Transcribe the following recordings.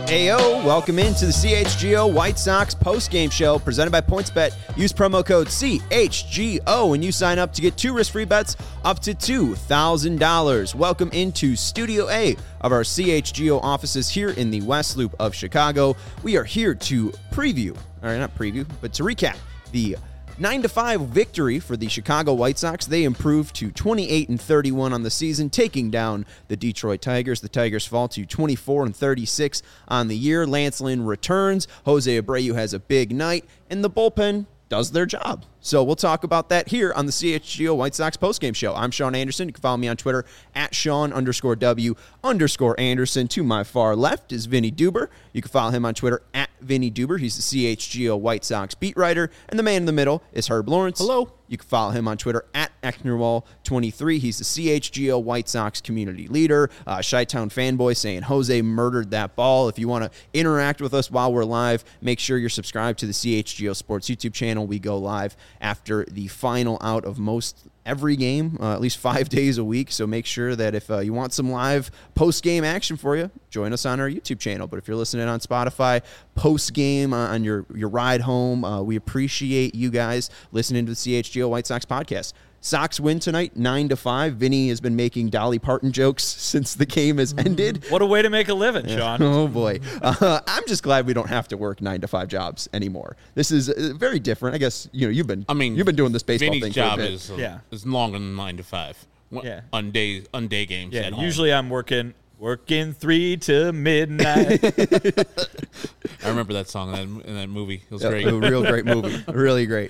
Ayo, welcome into the CHGO White Sox post-game show presented by PointsBet. Use promo code CHGO when you sign up to get 2 risk-free bets up to $2,000. Welcome into Studio A of our CHGO offices here in the West Loop of Chicago. We are here to preview, or not preview, but to recap the 9-5 victory for the Chicago White Sox. They improved to 28-31 on the season, taking down the Detroit Tigers. The Tigers fall to 24-36 on the year. Lance Lynn returns. Jose Abreu has a big night, and the bullpen does their job. So we'll talk about that here on the CHGO White Sox postgame show. I'm Sean Anderson. You can follow me on Twitter at Sean_W_Anderson. To my far left is Vinny Duber. You can follow him on Twitter at Vinny Duber. He's the CHGO White Sox beat writer. And the man in the middle is Herb Lawrence. Hello. You can follow him on Twitter at Ecknerwall23. He's the CHGO White Sox community leader. Chi-Town fanboy saying Jose murdered that ball. If you want to interact with us while we're live, make sure you're subscribed to the CHGO Sports YouTube channel. We go live after the final out of most every game, at least 5 days a week. So make sure that if you want some live post-game action for you, join us on our YouTube channel. But if you're listening on Spotify, post-game on your ride home, we appreciate you guys listening to the CHGO White Sox podcast. Sox win tonight, 9-5. Vinny has been making Dolly Parton jokes since the game has ended. What a way to make a living, Sean. Oh, boy. I'm just glad we don't have to work 9-5 jobs anymore. This is very different. I guess you've been doing this baseball Vinny's thing job for a bit. is longer than 9 to 5. Yeah. On day games. Yeah, at home. usually I'm working 3 to midnight. I remember that song in that movie. It was great. A real great movie. Really great.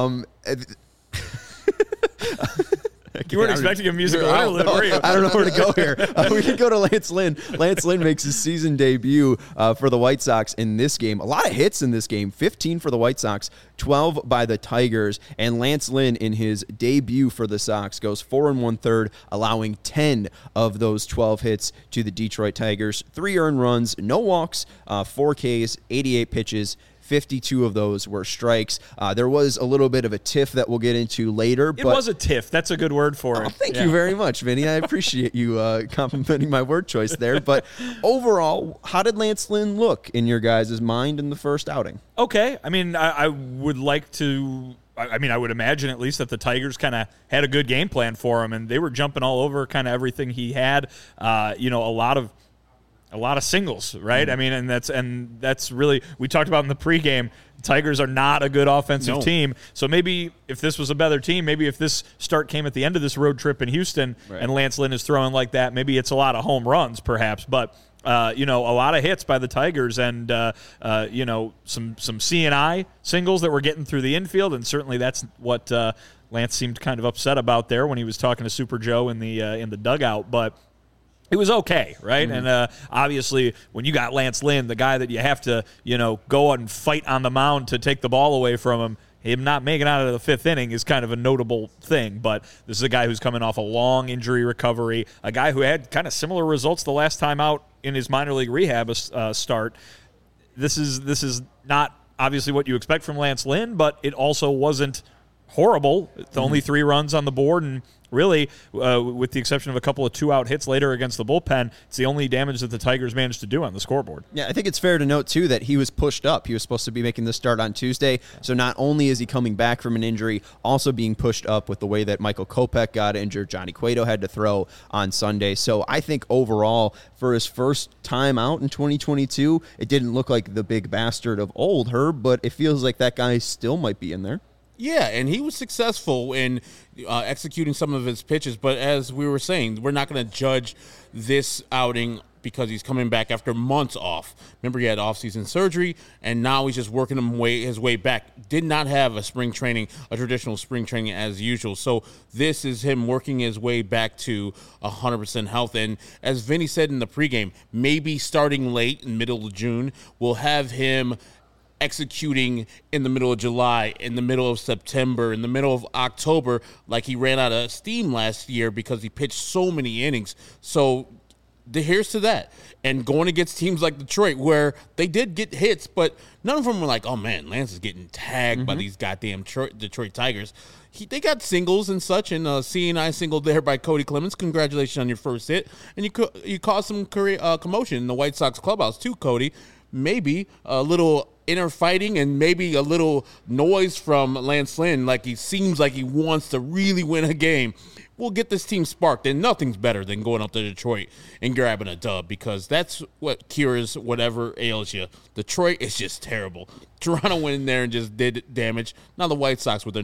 You weren't expecting a musical interlude, were you? I don't know where to go here. We can go to Lance Lynn. Lance Lynn makes his season debut for the White Sox in this game. A lot of hits in this game. 15 for the White Sox, 12 by the Tigers. And Lance Lynn, in his debut for the Sox, goes 4 1/3, allowing 10 of those 12 hits to the Detroit Tigers. 3 earned runs, no walks, 4 Ks, 88 pitches. 52 of those were strikes. There was a little bit of a tiff that we'll get into later. It was a tiff. That's a good word for it. Thank you very much, Vinny. I appreciate you complimenting my word choice there. But overall, how did Lance Lynn look in your guys' mind in the first outing? Okay. I mean, I would like to... I would imagine at least that the Tigers kind of had a good game plan for him, and they were jumping all over kind of everything he had. A lot of singles, right? I mean, and that's really, we talked about in the pregame, Tigers are not a good offensive team. So maybe if this was a better team, maybe if this start came at the end of this road trip in Houston and Lance Lynn is throwing like that, maybe it's a lot of home runs perhaps. But, a lot of hits by the Tigers and, some C&I singles that were getting through the infield. And certainly that's what Lance seemed kind of upset about there when he was talking to Super Joe in the dugout. But it was okay, right? Mm-hmm. And obviously, when you got Lance Lynn, the guy that you have to, go and fight on the mound to take the ball away from him not making it out of the 5th inning is kind of a notable thing. But this is a guy who's coming off a long injury recovery, a guy who had kind of similar results the last time out in his minor league rehab start. This is not obviously what you expect from Lance Lynn, but it also wasn't horrible. It's only 3 runs on the board, and really, with the exception of a couple of 2-out hits later against the bullpen, it's the only damage that the Tigers managed to do on the scoreboard. Yeah, I think it's fair to note, too, that he was pushed up. He was supposed to be making the start on Tuesday, so not only is he coming back from an injury, also being pushed up with the way that Michael Kopech got injured, Johnny Cueto had to throw on Sunday. So I think overall, for his first time out in 2022, it didn't look like the big bastard of old, Herb, but it feels like that guy still might be in there. Yeah, and he was successful in executing some of his pitches. But as we were saying, we're not going to judge this outing because he's coming back after months off. Remember, he had off-season surgery, and now he's just working his way back. Did not have a traditional spring training as usual. So this is him working his way back to 100% health. And as Vinny said in the pregame, maybe starting late in middle of June, we'll have him executing in the middle of July, in the middle of September, in the middle of October, like he ran out of steam last year because he pitched so many innings. So here's to that. And going against teams like Detroit, where they did get hits, but none of them were like, oh, man, Lance is getting tagged by these goddamn Detroit Tigers. They got singles and such, and seeing I singled there by Cody Clemens. Congratulations on your first hit. And you caused some commotion in the White Sox clubhouse too, Cody. Maybe a little inner fighting and maybe a little noise from Lance Lynn, like he seems like he wants to really win a game. We'll get this team sparked, and nothing's better than going up to Detroit and grabbing a dub, because that's what cures whatever ails you. Detroit is just terrible. Toronto went in there and just did damage. Now the White Sox with their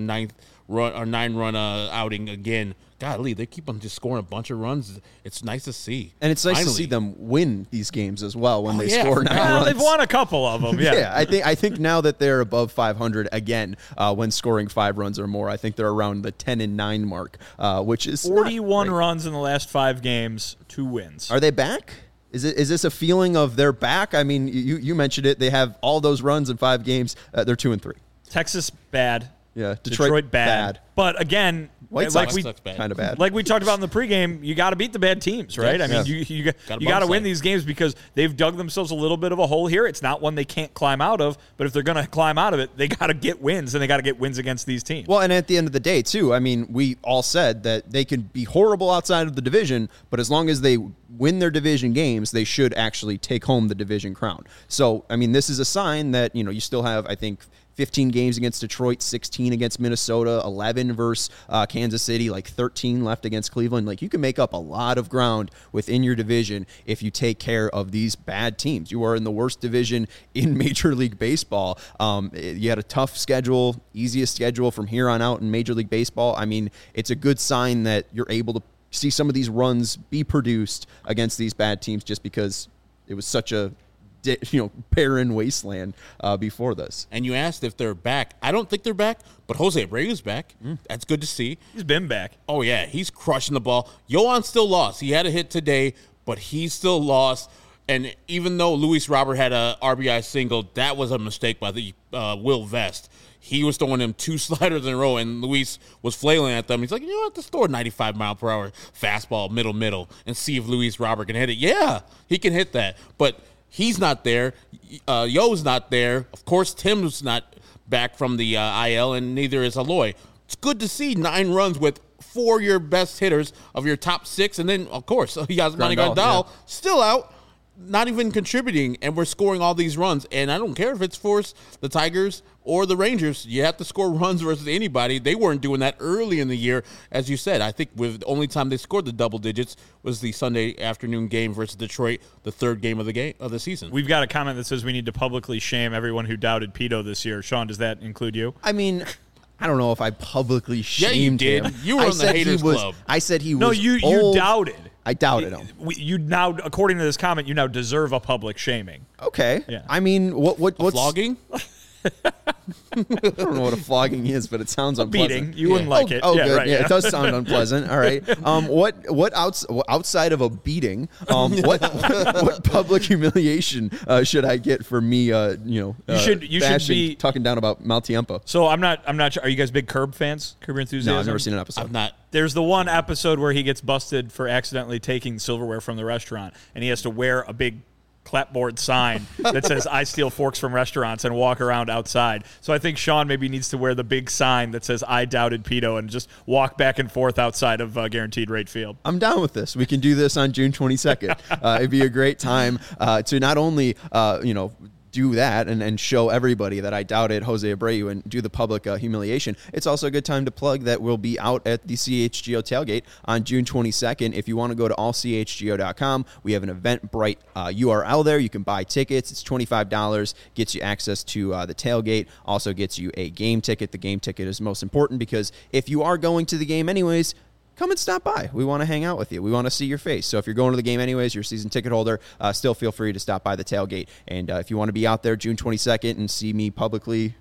9-run outing again. Golly, they keep on just scoring a bunch of runs. It's nice to see. And it's nice to see them win these games as well when they score 9 runs. They've won a couple of them, yeah. I think now that they're above 500 again when scoring 5 runs or more, I think they're around the 10-9 mark, which is 41 runs in the last 5 games, 2 wins. Are they back? Is this a feeling of they're back? I mean, you mentioned it. They have all those runs in 5 games. They're 2-3. Texas, bad. Yeah, Detroit bad. But again, White Sox kind of bad. Like we talked about in the pregame, you got to beat the bad teams, right? Yes. I mean, you got to win these games because they've dug themselves a little bit of a hole here. It's not one they can't climb out of, but if they're going to climb out of it, they got to get wins, and they got to get wins against these teams. Well, and at the end of the day, too, I mean, we all said that they can be horrible outside of the division, but as long as they win their division games, they should actually take home the division crown. So, I mean, this is a sign that, you still have, I think, 15 games against Detroit, 16 against Minnesota, 11 versus Kansas City, like 13 left against Cleveland. Like, you can make up a lot of ground within your division if you take care of these bad teams. You are in the worst division in Major League Baseball. You had a tough schedule, easiest schedule from here on out in Major League Baseball. I mean, it's a good sign that you're able to see some of these runs be produced against these bad teams just because it was such a barren wasteland before this. And you asked if they're back. I don't think they're back, but Jose Abreu's back. That's good to see. He's been back. Oh, yeah. He's crushing the ball. Yohan still lost. He had a hit today, but he still lost. And even though Luis Robert had a RBI single, that was a mistake by the Will Vest. He was throwing him 2 sliders in a row, and Luis was flailing at them. He's like, just throw a 95-mile-per-hour fastball middle, and see if Luis Robert can hit it. Yeah, he can hit that. But he's not there. Yo's not there. Of course, Tim's not back from the IL, and neither is Eloy. It's good to see 9 runs with 4 of your best hitters of your top 6. And then, of course, Yasmani Grandal still out, not even contributing, and we're scoring all these runs. And I don't care if it's for the Tigers or the Rangers. You have to score runs versus anybody. They weren't doing that early in the year. As you said, I think the only time they scored the double digits was the Sunday afternoon game versus Detroit, the 3rd game of the season. We've got a comment that says we need to publicly shame everyone who doubted Pito this year. Sean, does that include you? I mean, I don't know if I publicly shamed him. Yeah, you did. You were on the haters club. I said he was No, you doubted. I doubted him. You now, according to this comment, you now deserve a public shaming. Okay. Yeah. I mean, what's flogging? I don't know what a flogging is, but it sounds unpleasant. Beating. You wouldn't like it. Oh, yeah, good. Right, yeah, it does sound unpleasant. All right. What outside of a beating? What public humiliation should I get for me? You should be talking down about Mal Tiempo. So I'm not sure. Are you guys big Curb fans? Curb Your Enthusiasm? No, I've never seen an episode. I've not. There's the one episode where he gets busted for accidentally taking silverware from the restaurant, and he has to wear a big clapboard sign that says "I steal forks from restaurants" and walk around outside. So I think Sean maybe needs to wear the big sign that says "I doubted Pito" and just walk back and forth outside of Guaranteed Rate Field. I'm down with this. We can do this on June 22nd. It'd be a great time to not only do that and show everybody that I doubted Jose Abreu and do the public humiliation. It's also a good time to plug that we'll be out at the CHGO tailgate on June 22nd. If you want to go to allchgo.com, we have an Eventbrite URL there. You can buy tickets. It's $25, gets you access to the tailgate, also gets you a game ticket. The game ticket is most important because if you are going to the game anyways, come and stop by. We want to hang out with you. We want to see your face. So if you're going to the game anyways, you're a season ticket holder, still feel free to stop by the tailgate. And if you want to be out there June 22nd and see me publicly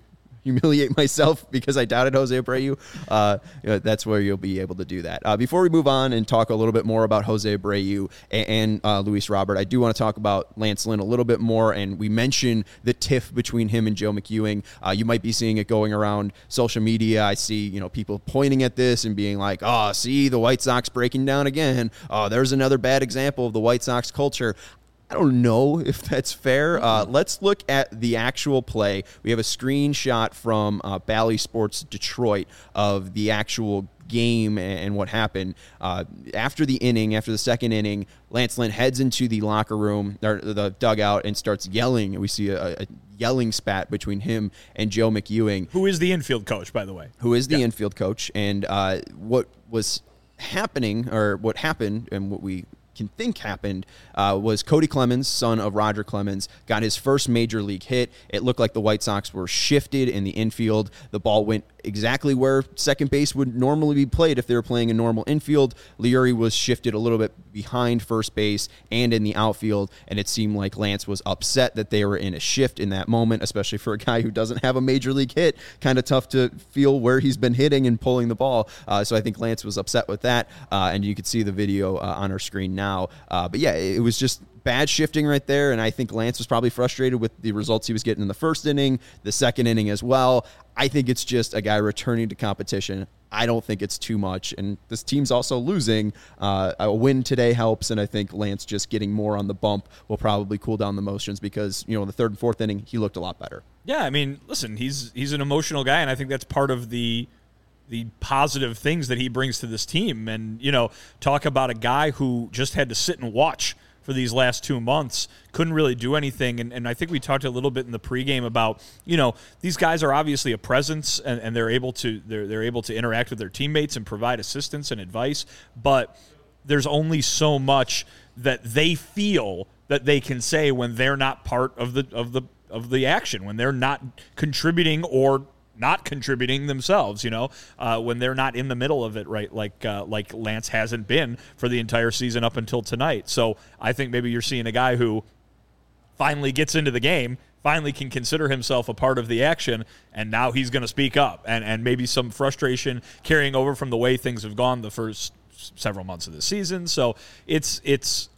humiliate myself because I doubted Jose Abreu, that's where you'll be able to do that. Before we move on and talk a little bit more about Jose Abreu and Luis Robert, I do want to talk about Lance Lynn a little bit more, and we mentioned the tiff between him and Joe McEwing. You might be seeing it going around social media. I see, people pointing at this and being like, oh, see, the White Sox breaking down again. Oh, there's another bad example of the White Sox culture. I don't know if that's fair. Let's look at the actual play. We have a screenshot from Bally Sports Detroit of the actual game and what happened. After the second inning, Lance Lynn heads into the locker room, or the dugout, and starts yelling. We see a yelling spat between him and Joe McEwing. Who is the infield coach, by the way. Infield coach. And what was happening, or what happened, and what we can think happened, was Cody Clemens, son of Roger Clemens, got his first major league hit. It looked like the White Sox were shifted in the infield. The ball went exactly where second base would normally be played if they were playing a normal infield. Leury was shifted a little bit behind first base and in the outfield, and it seemed like Lance was upset that they were in a shift in that moment, especially for a guy who doesn't have a major league hit. Kind of tough to feel where he's been hitting and pulling the ball. So I think Lance was upset with that, and you could see the video on our screen now. But yeah, it was just bad shifting right there, and I think Lance was probably frustrated with the results he was getting in the first inning, the second inning as well. I think it's just a guy returning to competition. I don't think it's too much, and this team's also losing. A win today helps, and I think Lance just getting more on the bump will probably cool down the motions because, in the third and fourth inning, he looked a lot better. Yeah, I mean, listen, he's an emotional guy, and I think that's part of the positive things that he brings to this team. And, talk about a guy who just had to sit and watch for these last 2 months, couldn't really do anything. And I think we talked a little bit in the pregame about, these guys are obviously a presence and they're able to interact with their teammates and provide assistance and advice, but there's only so much that they feel that they can say when they're not part of the action, when they're not contributing or not contributing themselves, when they're not in the middle of it, right? Like Lance hasn't been for the entire season up until tonight. So I think maybe you're seeing a guy who finally gets into the game, finally can consider himself a part of the action, and now he's going to speak up. And maybe some frustration carrying over from the way things have gone the first several months of the season. So it's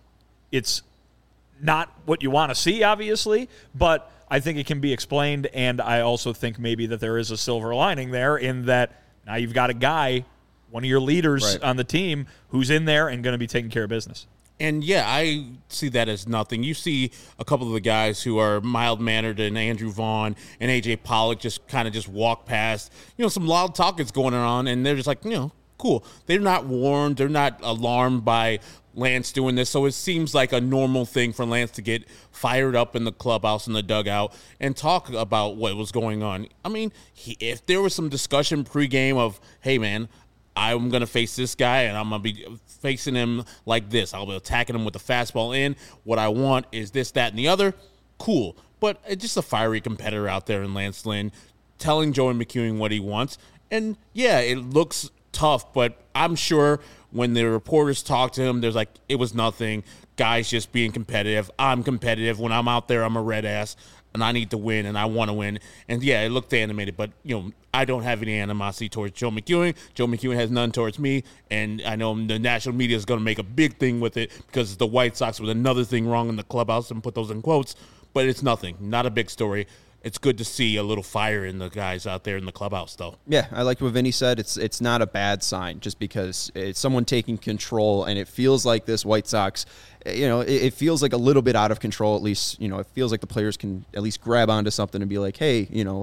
not what you want to see, obviously, but I think it can be explained, and I also think maybe that there is a silver lining there in that now you've got a guy, one of your leaders on the team, who's in there and going to be taking care of business. And, yeah, I see that as nothing. You see a couple of the guys who are mild-mannered, and Andrew Vaughn and A.J. Pollock just walk past. Some loud talk is going on, and they're just like, cool. They're not warned. They're not alarmed by Lance doing this. So it seems like a normal thing for Lance to get fired up in the clubhouse, in the dugout, and talk about what was going on. I mean, if there was some discussion pregame of, hey, man, I'm going to face this guy, and I'm going to be facing him like this. I'll be attacking him with the fastball in. What I want is this, that, and the other. Cool. But it's just a fiery competitor out there in Lance Lynn telling Joey McEwing what he wants. And, yeah, it looks tough, but I'm sure when the reporters talk to him, there's like, it was nothing. Guys just being competitive. I'm competitive. When I'm out there, I'm a red ass, and I need to win, and I want to win. And, yeah, it looked animated, but, I don't have any animosity towards Joe McEwing. Joe McEwing has none towards me, and I know the national media is going to make a big thing with it because it's the White Sox with another thing wrong in the clubhouse, and put those in quotes, but it's nothing. Not a big story. It's good to see a little fire in the guys out there in the clubhouse, though. Yeah, I like what Vinny said. It's not a bad sign just because it's someone taking control, and it feels like this White Sox, it feels like a little bit out of control at least. It feels like the players can at least grab onto something and be like, hey,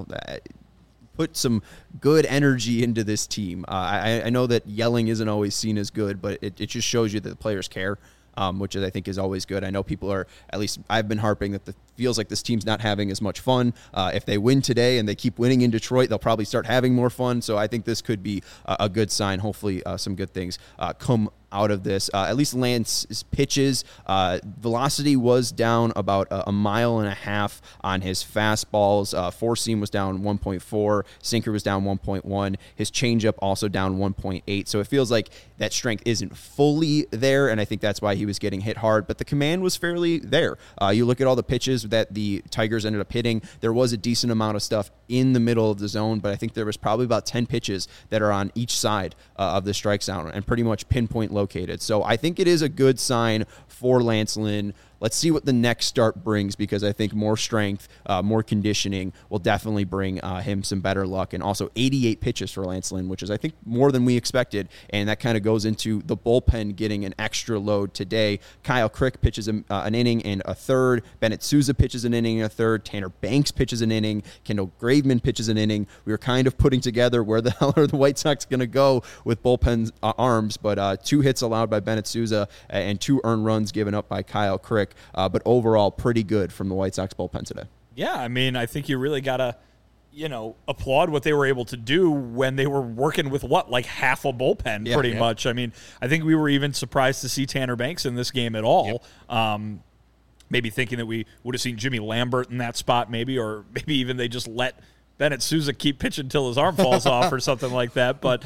put some good energy into this team. I know that yelling isn't always seen as good, but it just shows you that the players care. Which I think is always good. I know people are, at least I've been harping that feels like this team's not having as much fun. If they win today and they keep winning in Detroit, they'll probably start having more fun. So I think this could be a good sign. Hopefully some good things come out of this. At least Lance's pitches, velocity was down about a mile and a half on his fastballs. Four seam was down 1.4, sinker was down 1.1, his changeup also down 1.8. So it feels like that strength isn't fully there, and I think that's why he was getting hit hard. But the command was fairly there. You look at all the pitches that the Tigers ended up hitting. There was a decent amount of stuff in the middle of the zone, but I think there was probably about 10 pitches that are on each side of the strike zone and pretty much pinpoint located. So I think it is a good sign for Lance Lynn. Let's see what the next start brings, because I think more strength, more conditioning will definitely bring him some better luck. And also 88 pitches for Lance Lynn, which is, I think, more than we expected. And that kind of goes into the bullpen getting an extra load today. Kyle Crick pitches an inning and a third. Bennett Sousa pitches an inning and a third. Tanner Banks pitches an inning. Kendall Graveman pitches an inning. We were kind of putting together where the hell are the White Sox going to go with bullpen arms, but 2 hits allowed by Bennett Sousa and 2 earned runs given up by Kyle Crick. But overall, pretty good from the White Sox bullpen today. Yeah, I mean, I think you really got to, applaud what they were able to do when they were working with like half a bullpen, pretty much. I mean, I think we were even surprised to see Tanner Banks in this game at all. Yep. Maybe thinking that we would have seen Jimmy Lambert in that spot, or maybe even they just let Bennett Sousa keep pitching until his arm falls off or something like that. But,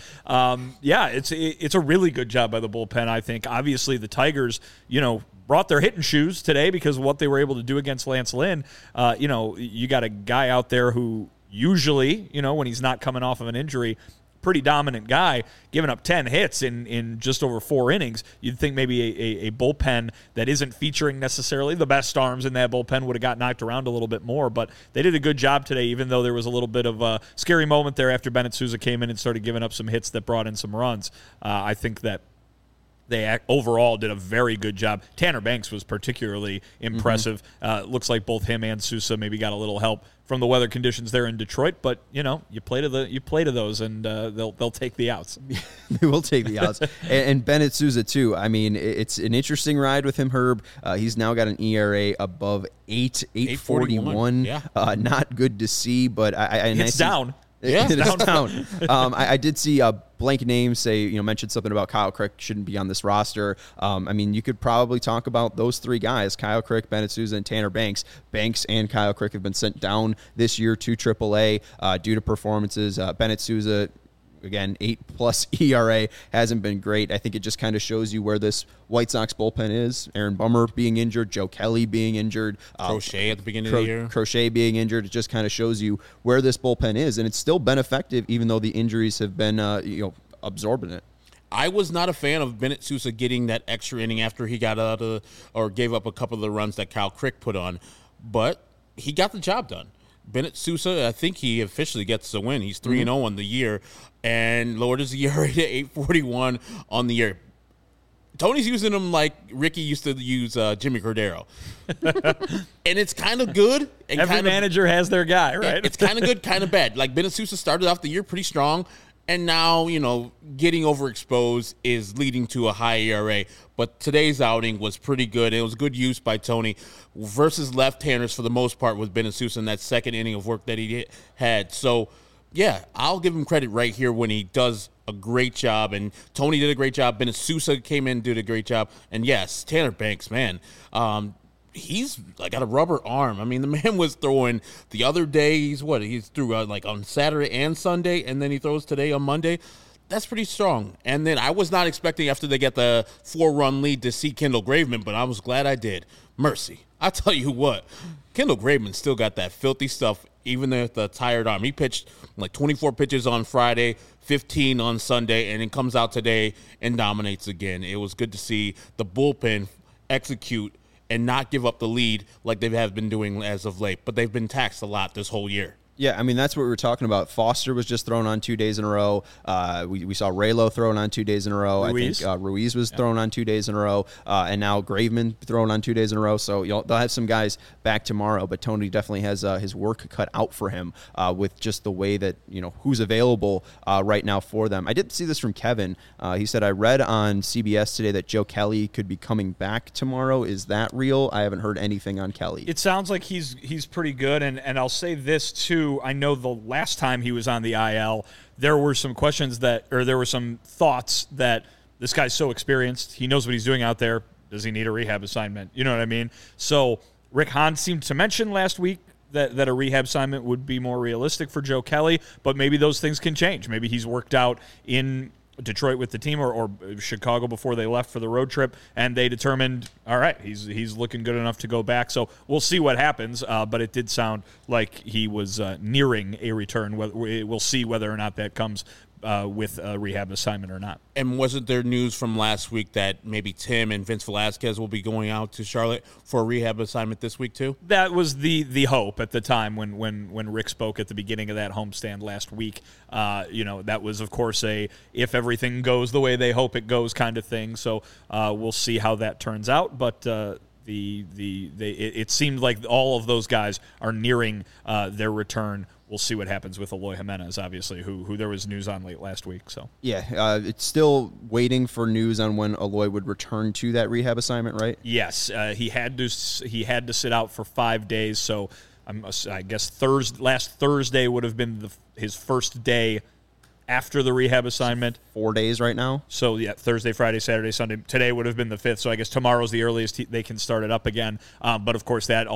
it's a really good job by the bullpen, I think. Obviously, the Tigers, brought their hitting shoes today because of what they were able to do against Lance Lynn. You got a guy out there who usually, when he's not coming off of an injury, pretty dominant guy, giving up 10 hits in just over 4 innings. You'd think maybe a bullpen that isn't featuring necessarily the best arms in that bullpen would have got knocked around a little bit more, but they did a good job today, even though there was a little bit of a scary moment there after Bennett Sousa came in and started giving up some hits that brought in some runs. I think that they overall did a very good job. Tanner Banks was particularly impressive. Looks like both him and Sousa maybe got a little help from the weather conditions there in Detroit, but you play to those, and they'll take the outs. They will take the outs. and Bennett Sousa too. I mean, it's an interesting ride with him, Herb. He's now got an ERA above 8.41. Yeah, not good to see, but it's down. Yeah, it's down. I did see a blank name say, mentioned something about Kyle Crick shouldn't be on this roster. I mean, you could probably talk about those 3 guys, Kyle Crick, Bennett Sousa, and Tanner Banks. Banks and Kyle Crick have been sent down this year to AAA due to performances. Bennett Sousa, again, 8+ ERA, hasn't been great. I think it just kind of shows you where this White Sox bullpen is. Aaron Bummer being injured, Joe Kelly being injured. Crochet at the beginning of the year. Crochet being injured. It just kind of shows you where this bullpen is, and it's still been effective even though the injuries have been absorbing it. I was not a fan of Bennett Sousa getting that extra inning after he got out of or gave up a couple of the runs that Kyle Crick put on, but he got the job done. Bennett Sousa, I think he officially gets the win. He's 3-0 on the year and lowered his ERA to 8.41 on the year. Tony's using him like Ricky used to use Jimmy Cordero. And it's kind of good. And every manager has their guy, right? It's kind of good, kind of bad. Like Bennett Sousa started off the year pretty strong, and now, getting overexposed is leading to a high ERA. But today's outing was pretty good. It was good use by Tony versus left-handers for the most part with Bennett Sousa in that second inning of work that he had. So, yeah, I'll give him credit right here when he does a great job. And Tony did a great job. Bennett Sousa came in and did a great job. And, yes, Tanner Banks, man, he's got a rubber arm. I mean, the man was throwing the other day. He's threw on Saturday and Sunday, and then he throws today on Monday. That's pretty strong. And then I was not expecting after they get the 4-run lead to see Kendall Graveman, but I was glad I did. Mercy. I tell you what, Kendall Graveman still got that filthy stuff, even with the tired arm. He pitched 24 pitches on Friday, 15 on Sunday, and then comes out today and dominates again. It was good to see the bullpen execute and not give up the lead like they have been doing as of late. But they've been taxed a lot this whole year. Yeah, I mean, that's what we were talking about. Foster was just thrown on 2 days in a row. We saw Raylo thrown on 2 days in a row. Ruiz. I think Ruiz was thrown on 2 days in a row. And now Graveman thrown on 2 days in a row. So they'll have some guys back tomorrow. But Tony definitely has his work cut out for him with just the way that, who's available right now for them. I did see this from Kevin. He said, I read on CBS today that Joe Kelly could be coming back tomorrow. Is that real? I haven't heard anything on Kelly. It sounds like he's pretty good. And I'll say this, too. I know the last time he was on the IL, there were some questions there were some thoughts that this guy's so experienced. He knows what he's doing out there. Does he need a rehab assignment? You know what I mean? So Rick Hahn seemed to mention last week that a rehab assignment would be more realistic for Joe Kelly, but maybe those things can change. Maybe he's worked out in Detroit with the team or Chicago before they left for the road trip, and they determined, all right, he's looking good enough to go back. So we'll see what happens, but it did sound like he was nearing a return. We'll see whether or not that comes with a rehab assignment or not. And wasn't there news from last week that maybe Tim and Vince Velasquez will be going out to Charlotte for a rehab assignment this week too? That was the hope at the time when Rick spoke at the beginning of that homestand last week. That was, of course, if everything goes the way they hope it goes kind of thing. So we'll see how that turns out. But it seemed like all of those guys are nearing their return. We'll see what happens with Eloy Jimenez, obviously, who there was news on late last week. So yeah, it's still waiting for news on when Eloy would return to that rehab assignment, right? Yes, he had to sit out for 5 days. So I guess last Thursday would have been his first day after the rehab assignment. 4 days right now. So, yeah, Thursday, Friday, Saturday, Sunday. Today would have been the 5th, so I guess tomorrow's the earliest they can start it up again. But, of course, that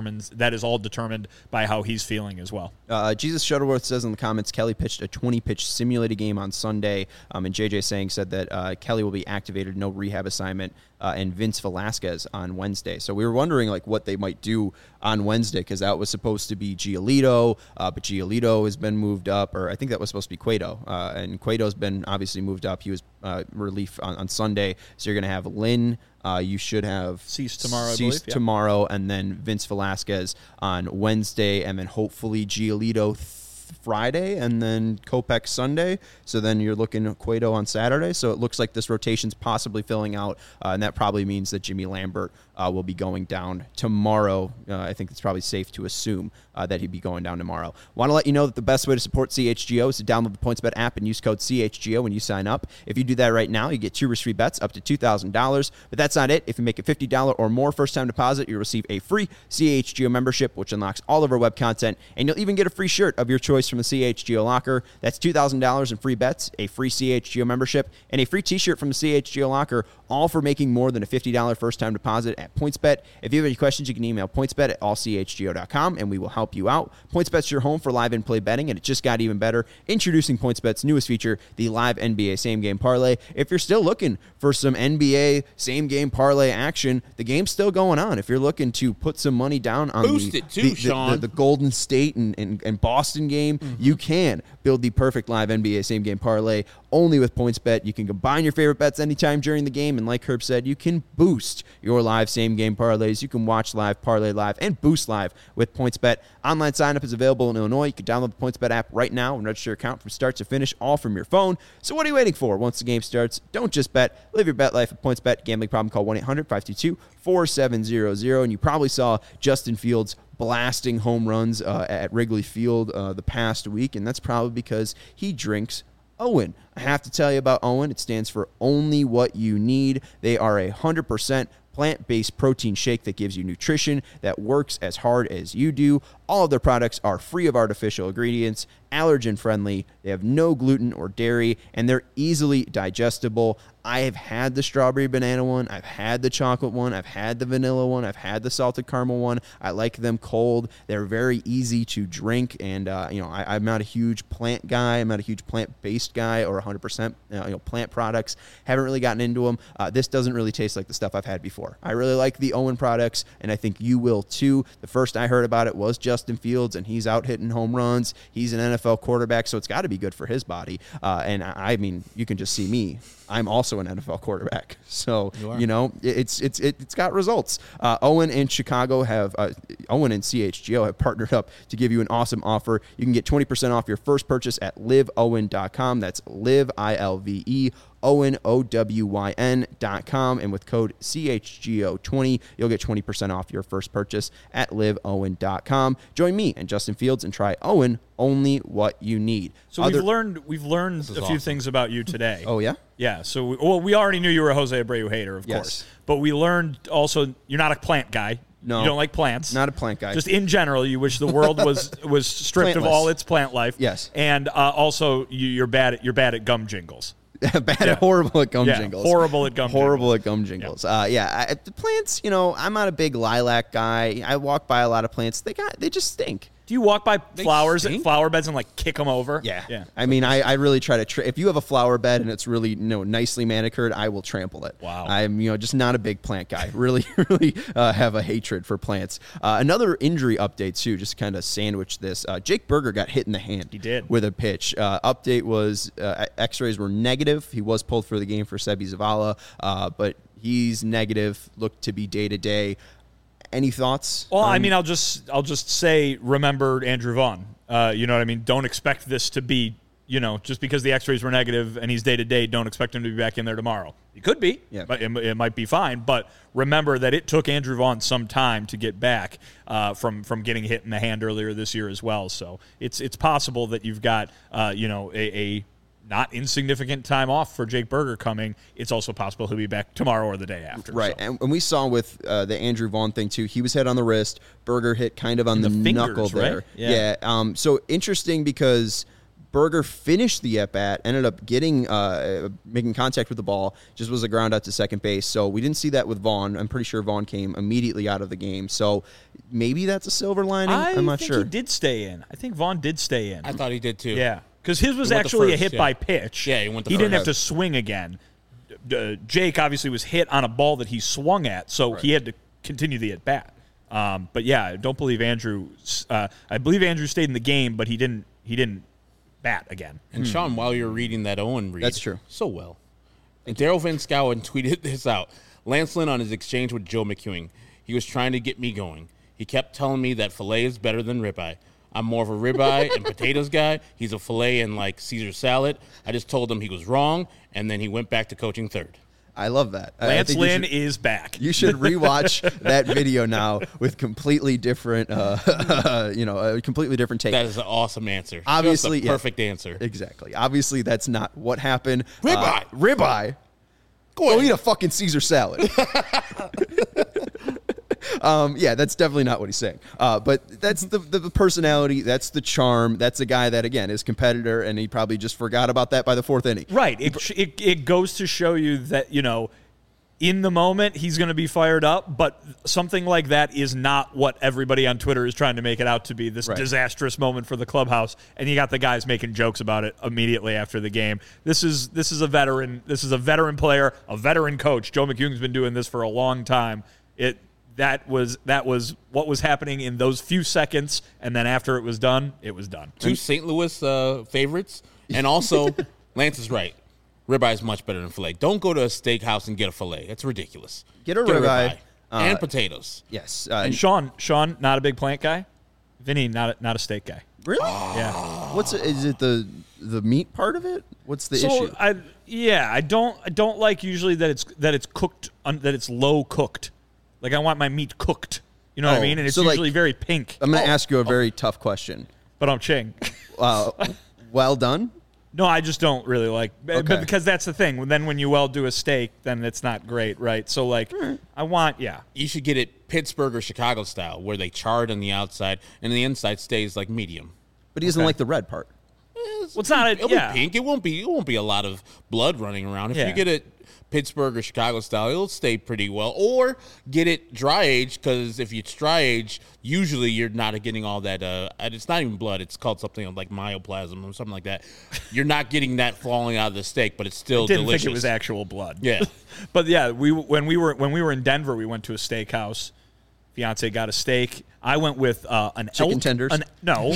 is all determined by how he's feeling as well. Jesus Shuttleworth says in the comments, Kelly pitched a 20-pitch simulated game on Sunday, and JJ Sang said that Kelly will be activated, no rehab assignment, and Vince Velasquez on Wednesday. So we were wondering what they might do on Wednesday, because that was supposed to be Giolito, but Giolito has been moved up, or I think that was supposed to be Cueto, and Cueto's been obviously moved up. He was relief on Sunday, so you're going to have Lynn. You should have Cease tomorrow, tomorrow, and then Vince Velasquez on Wednesday, and then hopefully Giolito Friday, and then Kopech Sunday. So then you're looking at Cueto on Saturday. So it looks like this rotation's possibly filling out, and that probably means that Jimmy Lambert will be going down tomorrow. I think it's probably safe to assume that he'd be going down tomorrow. Want to let you know that the best way to support CHGO is to download the PointsBet app and use code CHGO when you sign up. If you do that right now, you get 2 risk-free bets up to $2,000. But that's not it. If you make a $50 or more first-time deposit, you'll receive a free CHGO membership, which unlocks all of our web content, and you'll even get a free shirt of your choice from the CHGO locker. That's $2,000 in free bets, a free CHGO membership, and a free t-shirt from the CHGO locker, all for making more than a $50 first-time deposit at PointsBet. If you have any questions, you can email pointsbet@allchgo.com, and we will help you out. PointsBet's your home for live in-play betting, and it just got even better. Introducing PointsBet's newest feature, the live NBA same-game parlay. If you're still looking for some NBA same-game parlay action, the game's still going on. If you're looking to put some money down on the Golden State and Boston game, you can build the perfect live NBA same-game parlay only with PointsBet. You can combine your favorite bets anytime during the game, and like Herb said, you can boost your live same-game parlays. You can watch live, parlay live, and boost live with PointsBet. Online sign-up is available in Illinois. You can download the PointsBet app right now and register your account from start to finish, all from your phone. So what are you waiting for? Once the game starts, don't just bet. Live your bet life at PointsBet. Gambling problem, call 1-800-522-4700. And you probably saw Justin Fields blasting home runs at Wrigley Field the past week, and that's probably because he drinks Owen. I have to tell you about Owen. It stands for Only What You Need. They are 100% plant-based protein shake that gives you nutrition that works as hard as you do. All of their products are free of artificial ingredients, allergen-friendly, they have no gluten or dairy, and they're easily digestible. I have had the strawberry banana one, I've had the chocolate one, I've had the vanilla one, I've had the salted caramel one. I like them cold. They're very easy to drink, and I'm not a huge plant guy. I'm not a huge plant-based guy or 100% plant products. Haven't really gotten into them. This doesn't really taste like the stuff I've had before. I really like the Owen products, and I think you will too. The first I heard about it was Justin Fields, and he's out hitting home runs. He's an NFL quarterback, so it's got to be good for his body. And I mean, you can just see me. I'm also an NFL quarterback, so it's got results. Owen and Chicago Owen and CHGO have partnered up to give you an awesome offer. You can get 20% off your first purchase at liveowen.com. That's live ILVE. Owen, OWYN.com, and with code CHGO20, you'll get 20% off your first purchase at liveowen.com. Join me and Justin Fields and try Owen, Only What You Need. So we've learned a few things about you today. Oh, yeah? Yeah, so we already knew you were a Jose Abreu hater, of course. But we learned also you're not a plant guy. No. You don't like plants. Not a plant guy. Just in general, you wish the world was stripped of all its plant life. Yes. And also you're bad at gum jingles. horrible at gum jingles. Horrible at gum jingles. The plants, I'm not a big lilac guy. I walk by a lot of plants. They just stink. Do you walk by flowers and flower beds and like kick them over? Yeah. I mean, I really try to. If you have a flower bed and it's really nicely manicured, I will trample it. Wow. I'm just not a big plant guy. Really have a hatred for plants. Another injury update too. Just kind of sandwich this. Jake Burger got hit in the hand. He did with a pitch. Update was X-rays were negative. He was pulled for the game for Sebi Zavala, but he's negative. Looked to be day to day. Any thoughts? Well, I mean, I'll just say, remember Andrew Vaughn. You know what I mean? Don't expect this to be, just because the X-rays were negative and he's day-to-day, don't expect him to be back in there tomorrow. He could be, but it might be fine. But remember that it took Andrew Vaughn some time to get back from getting hit in the hand earlier this year as well. So it's possible that you've got, a not insignificant time off for Jake Burger coming. It's also possible he'll be back tomorrow or the day after. Right, so. And we saw with the Andrew Vaughn thing, too, he was hit on the wrist. Burger hit kind of on the fingers, knuckle there. Right? Yeah. So interesting because Burger finished the at-bat, ended up getting making contact with the ball, just was a ground out to second base. So we didn't see that with Vaughn. I'm pretty sure Vaughn came immediately out of the game. So maybe that's a silver lining. I'm not sure. I think he did stay in. I think Vaughn did stay in. I thought he did, too. Yeah. Because his was actually a hit by pitch. Yeah, he went the He didn't have to swing again. Jake obviously was hit on a ball that he swung at, so he had to continue the at-bat. But yeah, I don't believe Andrew. I believe Andrew stayed in the game, but he didn't bat again. And Sean, while you're reading that Owen read, that's true. So well. And Daryl Van Schouwen tweeted this out. Lance Lynn on his exchange with Joe McEwing. He was trying to get me going. He kept telling me that filet is better than ribeye. I'm more of a ribeye and potatoes guy. He's a filet and like Caesar salad. I just told him he was wrong, and then he went back to coaching third. I love that. Lance Lynn is back. You should rewatch that video now with completely different, a completely different take. That is an awesome answer. Obviously, perfect answer. Exactly. Obviously, that's not what happened. Ribeye. Ribeye. Go eat a fucking Caesar salad. That's definitely not what he's saying. But that's the personality. That's the charm. That's a guy that, again, is competitor, and he probably just forgot about that by the fourth inning. Right. It goes to show you that, in the moment, he's going to be fired up, but something like that is not what everybody on Twitter is trying to make it out to be, this disastrous moment for the clubhouse, and you got the guys making jokes about it immediately after the game. This is a veteran. This is a veteran player, a veteran coach. Joe McEwing's been doing this for a long time. That was what was happening in those few seconds, and then after it was done, it was done. Two St. Louis favorites, and also Lance is right. Ribeye is much better than filet. Don't go to a steakhouse and get a filet. That's ridiculous. Get a ribeye. And potatoes. Yes. And Sean, not a big plant guy. Vinny, not a steak guy. Really? Yeah. Is it the meat part of it? What's the issue? I don't like usually that it's cooked that it's low cooked. Like I want my meat cooked. You know what I mean? And it's usually very pink. I'm going to ask you a very tough question. But I'm Ching. Well done? No, I just don't really like, but because that's the thing. Then when you do a steak, then it's not great, right? So I want, You should get it Pittsburgh or Chicago style, where they char it on the outside and the inside stays like medium. But he doesn't like the red part. It's not. It'll be pink. It won't be a lot of blood running around. If you get it Pittsburgh or Chicago style, it'll stay pretty well. Or get it dry aged, because if it's dry aged, usually you're not getting all that. It's not even blood. It's called something like myoplasm or something like that. You're not getting that falling out of the steak, but it's still delicious. Didn't think it was actual blood. Yeah, but yeah, when we were in Denver, we went to a steakhouse. Fiance got a steak. I went with an chicken elk. tenders. No.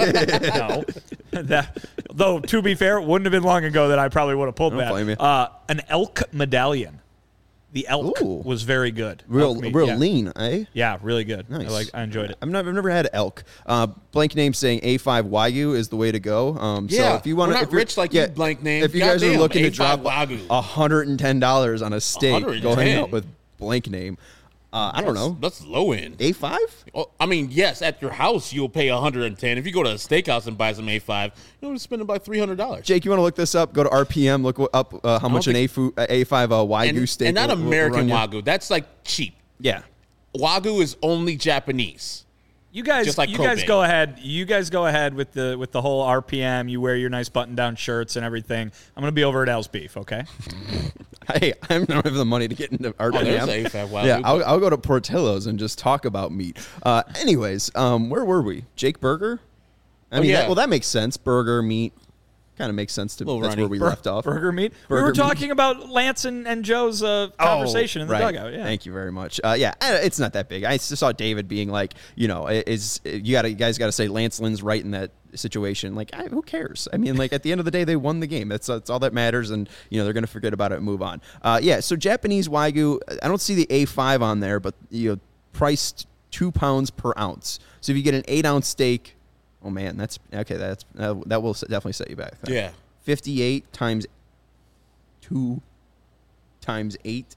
Though to be fair, it wouldn't have been long ago that I probably would have pulled that. Blame you. An elk medallion. The elk was very good. Real lean, eh? Yeah, really good. Nice. I enjoyed it. I've never had elk. Blank name saying A5 Wagyu is the way to go. So if you want to, rich like you, blank name. If you guys are looking to drop Wagyu. $110 on a steak, go hang out with blank name. I don't know. That's low end. A5? Well, I mean, yes, at your house you'll pay $110. If you go to a steakhouse and buy some A5, you'll spend about $300. Jake, you want to look this up? Go to RPM, look up how much an A5 Wagyu steak. And not American Wagyu. That's like cheap. Yeah. Wagyu is only Japanese. You guys, Just like you guys Cobain. go ahead. You guys go ahead with the whole RPM. You wear your nice button-down shirts and everything. I'm going to be over at Al's Beef, okay? Hey, I don't have the money to get into RPM. there's AFAB. Wow, Yeah, I'll go to Portillo's and just talk about meat. Anyways, where were we? Jake Berger? I mean, yeah. that makes sense. Burger, meat. Kind of makes sense to Little that's runny. where we left off. Burger meat. We Burger were meat. talking about Lance and Joe's conversation in the right. dugout. Yeah. Thank you very much. It's not that big. I just saw David being like, you guys got to say Lance Lynn's right in that situation. Like, who cares? I mean, like at the end of the day, they won the game. That's all that matters, and they're going to forget about it and move on. So Japanese Wagyu, I don't see the A5 on there, but priced 2 pounds per ounce. So if you get an 8-ounce steak. Oh man, that's okay. That will definitely set you back. Yeah. 58 times 2 times 8.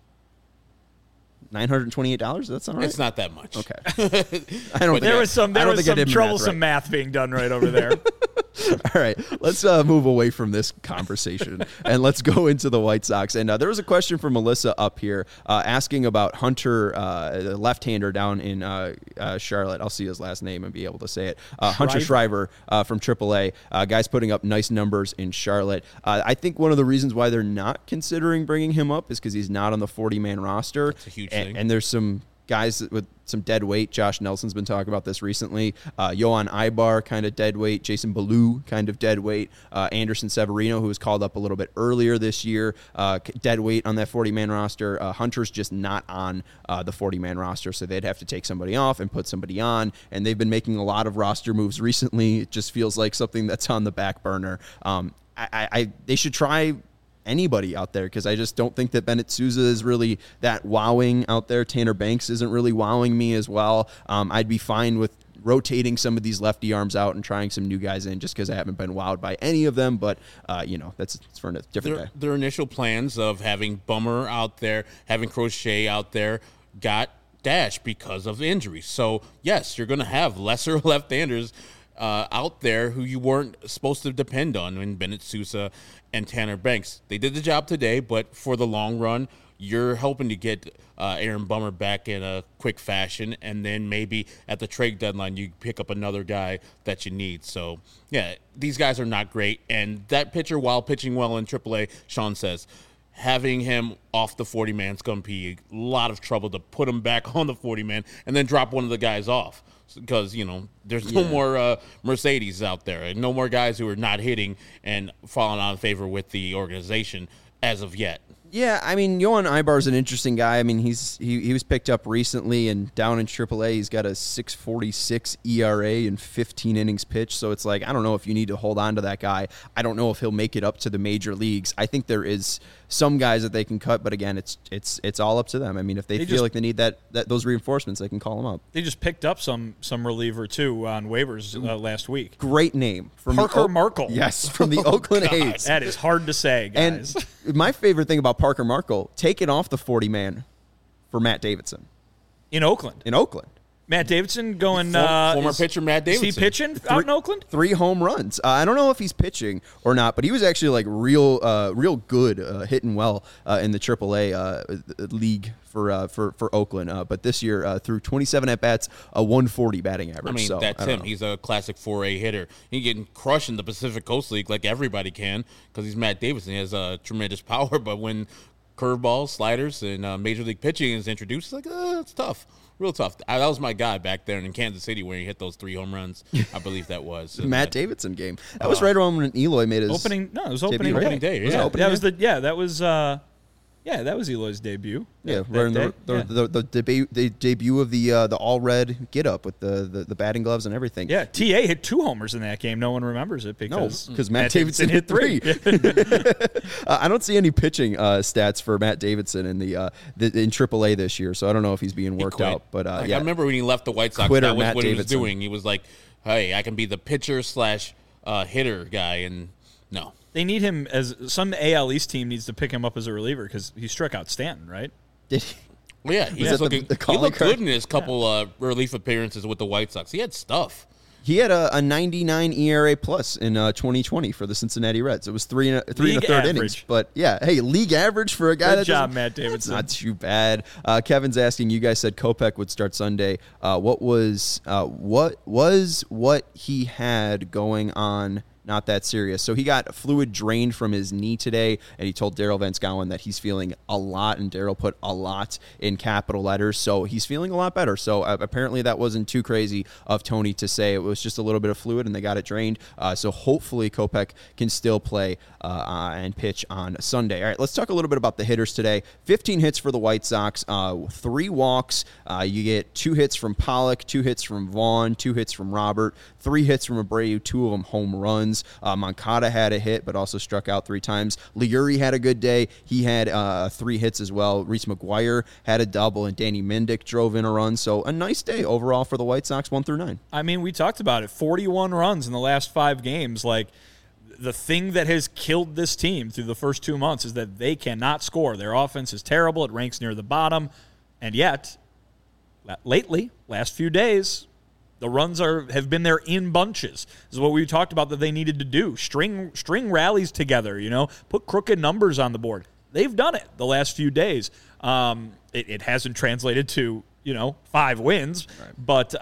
$928. Does that sound right? It's not that much. Okay. I don't. There was some I don't think I did troublesome math math being done right over there. All right, let's move away from this conversation and let's go into the White Sox. And there was a question from Melissa up here asking about Hunter, the left-hander down in Charlotte. I'll see his last name and be able to say it. Hunter Shriver from AAA. Guy's putting up nice numbers in Charlotte. I think one of the reasons why they're not considering bringing him up is because he's not on the 40-man roster. That's a huge thing. And there's some guys with some dead weight. Josh Nelson's been talking about this recently. Yohan Ibar, kind of dead weight. Jason Ballou, kind of dead weight. Anderson Severino, who was called up a little bit earlier this year, dead weight on that 40-man roster. Hunter's just not on the 40-man roster, so they'd have to take somebody off and put somebody on, and they've been making a lot of roster moves recently. It just feels like something that's on the back burner. They should try anybody out there, because I just don't think that Bennett Sousa is really that wowing out there. Tanner Banks isn't really wowing me as well. I'd be fine with rotating some of these lefty arms out and trying some new guys in, just because I haven't been wowed by any of them. But that's for a different day. Their initial plans of having Bummer out there, having Crochet out there, got dashed because of injuries. So yes, you're going to have lesser left-handers out there who you weren't supposed to depend on in Bennett Sousa and Tanner Banks. They did the job today, but for the long run, you're hoping to get Aaron Bummer back in a quick fashion, and then maybe at the trade deadline you pick up another guy that you need. So, yeah, these guys are not great, and that pitcher, while pitching well in AAA, Sean says, having him off the 40-man is going to be a lot of trouble to put him back on the 40-man and then drop one of the guys off. Because, there's no more Mercedes out there and no more guys who are not hitting and falling out of favor with the organization as of yet. Yeah, I mean, Yohan Ibar is an interesting guy. I mean, he was picked up recently, and down in AAA, he's got a 6.46 ERA and 15 innings pitched. So it's like, I don't know if you need to hold on to that guy. I don't know if he'll make it up to the major leagues. I think there is some guys that they can cut, but again, it's all up to them. I mean, if they feel like they need those reinforcements, they can call them up. They just picked up some reliever too on waivers last week. Great name from Parker Markle. Yes, from the Oakland A's. That is hard to say, guys. And my favorite thing about Parker Markle, taking off the 40-man for Matt Davidson in Oakland. Matt Davidson going former pitcher Matt Davidson. Is he pitching out in Oakland? 3 home runs. I don't know if he's pitching or not, but he was actually like real good, hitting well in the AAA league for Oakland. But this year, through 27 at bats, a 140 batting average. I mean, that's him. He's a classic 4A hitter. He can crush in the Pacific Coast League like everybody can, because he's Matt Davidson. He has tremendous power, but when curveballs, sliders, and major league pitching is introduced, it's like, it's tough. Real tough. That was my guy back there in Kansas City where he hit those 3 home runs. I believe that was Matt Davidson game. That was right around when Eloy made his opening. No, it was opening debut, day. Yeah. That was Eloy's debut. Yeah, we're in the debut of the all red get up with the batting gloves and everything. Yeah, TA hit 2 homers in that game. No one remembers it because Matt Davidson hit 3. I don't see any pitching stats for Matt Davidson in in AAA this year, so I don't know if he's being worked out. But I remember when he left the White Sox, that was what he was doing. He was like, "Hey, I can be the pitcher / hitter guy," and no. They need him as some AL East team needs to pick him up as a reliever because he struck out Stanton, right? Did he? Well, yeah, he looked good in his couple relief appearances with the White Sox. He had stuff. He had a 99 ERA plus in 2020 for the Cincinnati Reds. It was three and a third innings. But yeah, hey, league average for a guy. Good job, Matt Davidson. Not too bad. Kevin's asking, you guys said Kopech would start Sunday. What he had going on? Not that serious. So he got fluid drained from his knee today, and he told Daryl Van Schouwen that he's feeling a lot, and Daryl put a lot in capital letters. So he's feeling a lot better. So apparently that wasn't too crazy of Tony to say. It was just a little bit of fluid, and they got it drained. So hopefully Kopech can still play and pitch on Sunday. All right, let's talk a little bit about the hitters today. 15 hits for the White Sox, 3 walks. You get 2 hits from Pollock, 2 hits from Vaughn, 2 hits from Robert, 3 hits from Abreu, 2 of them home runs. Moncada had a hit, but also struck out 3 times. Leury had a good day. He had 3 hits as well. Reese McGuire had a double, and Danny Mendick drove in a run. So a nice day overall for the White Sox, 1 through 9. I mean, we talked about it. 41 runs in the last 5 games. Like, the thing that has killed this team through the first 2 months is that they cannot score. Their offense is terrible. It ranks near the bottom. And yet, lately, last few days, the runs have been there in bunches. This is what we talked about that they needed to do. String rallies together, put crooked numbers on the board. They've done it the last few days. It hasn't translated to 5 wins, right.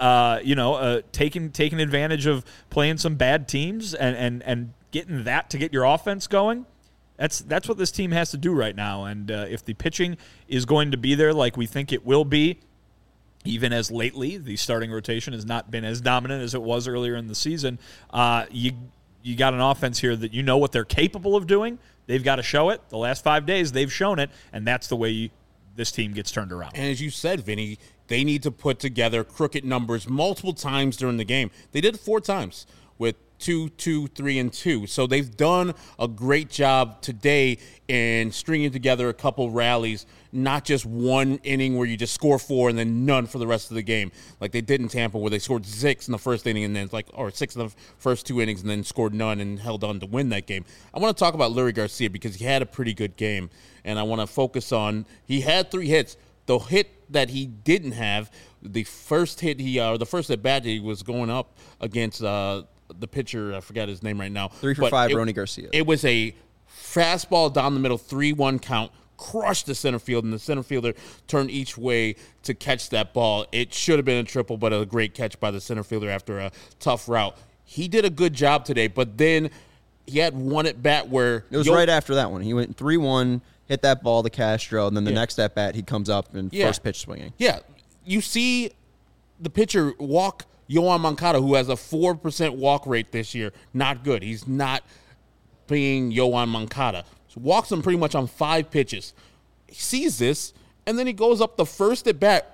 But taking advantage of playing some bad teams and getting that to get your offense going. That's what this team has to do right now. And if the pitching is going to be there like we think it will be, even as lately the starting rotation has not been as dominant as it was earlier in the season, you got an offense here that what they're capable of doing. They've got to show it. The last 5 days, they've shown it, and that's the way this team gets turned around. And as you said, Vinny, they need to put together crooked numbers multiple times during the game. They did it 4 times with 2, 2, 3, and 2. So they've done a great job today in stringing together a couple rallies, not just one inning where you just score 4 and then none for the rest of the game, like they did in Tampa, where they scored 6 in the first inning and then or 6 in the first 2 innings and then scored none and held on to win that game. I want to talk about Leury Garcia because he had a pretty good game, and I want to focus on he had 3 hits. The hit that he didn't have, the first hit the first at bat he was going up against the pitcher, I forgot his name right now. 3 for 5, Rony Garcia. It was a fastball down the middle, 3-1 count, crushed the center field, and the center fielder turned each way to catch that ball. It should have been a triple, but a great catch by the center fielder after a tough route. He did a good job today, but then he had one at bat where it was right after that one. He went 3-1, hit that ball to Castro, and then the next at bat he comes up and first pitch swinging. Yeah, you see the pitcher walk Yoan Moncada, who has a 4% walk rate this year. Not good. He's not being Yoan Moncada. So walks him pretty much on 5 pitches. He sees this, and then he goes up the first at bat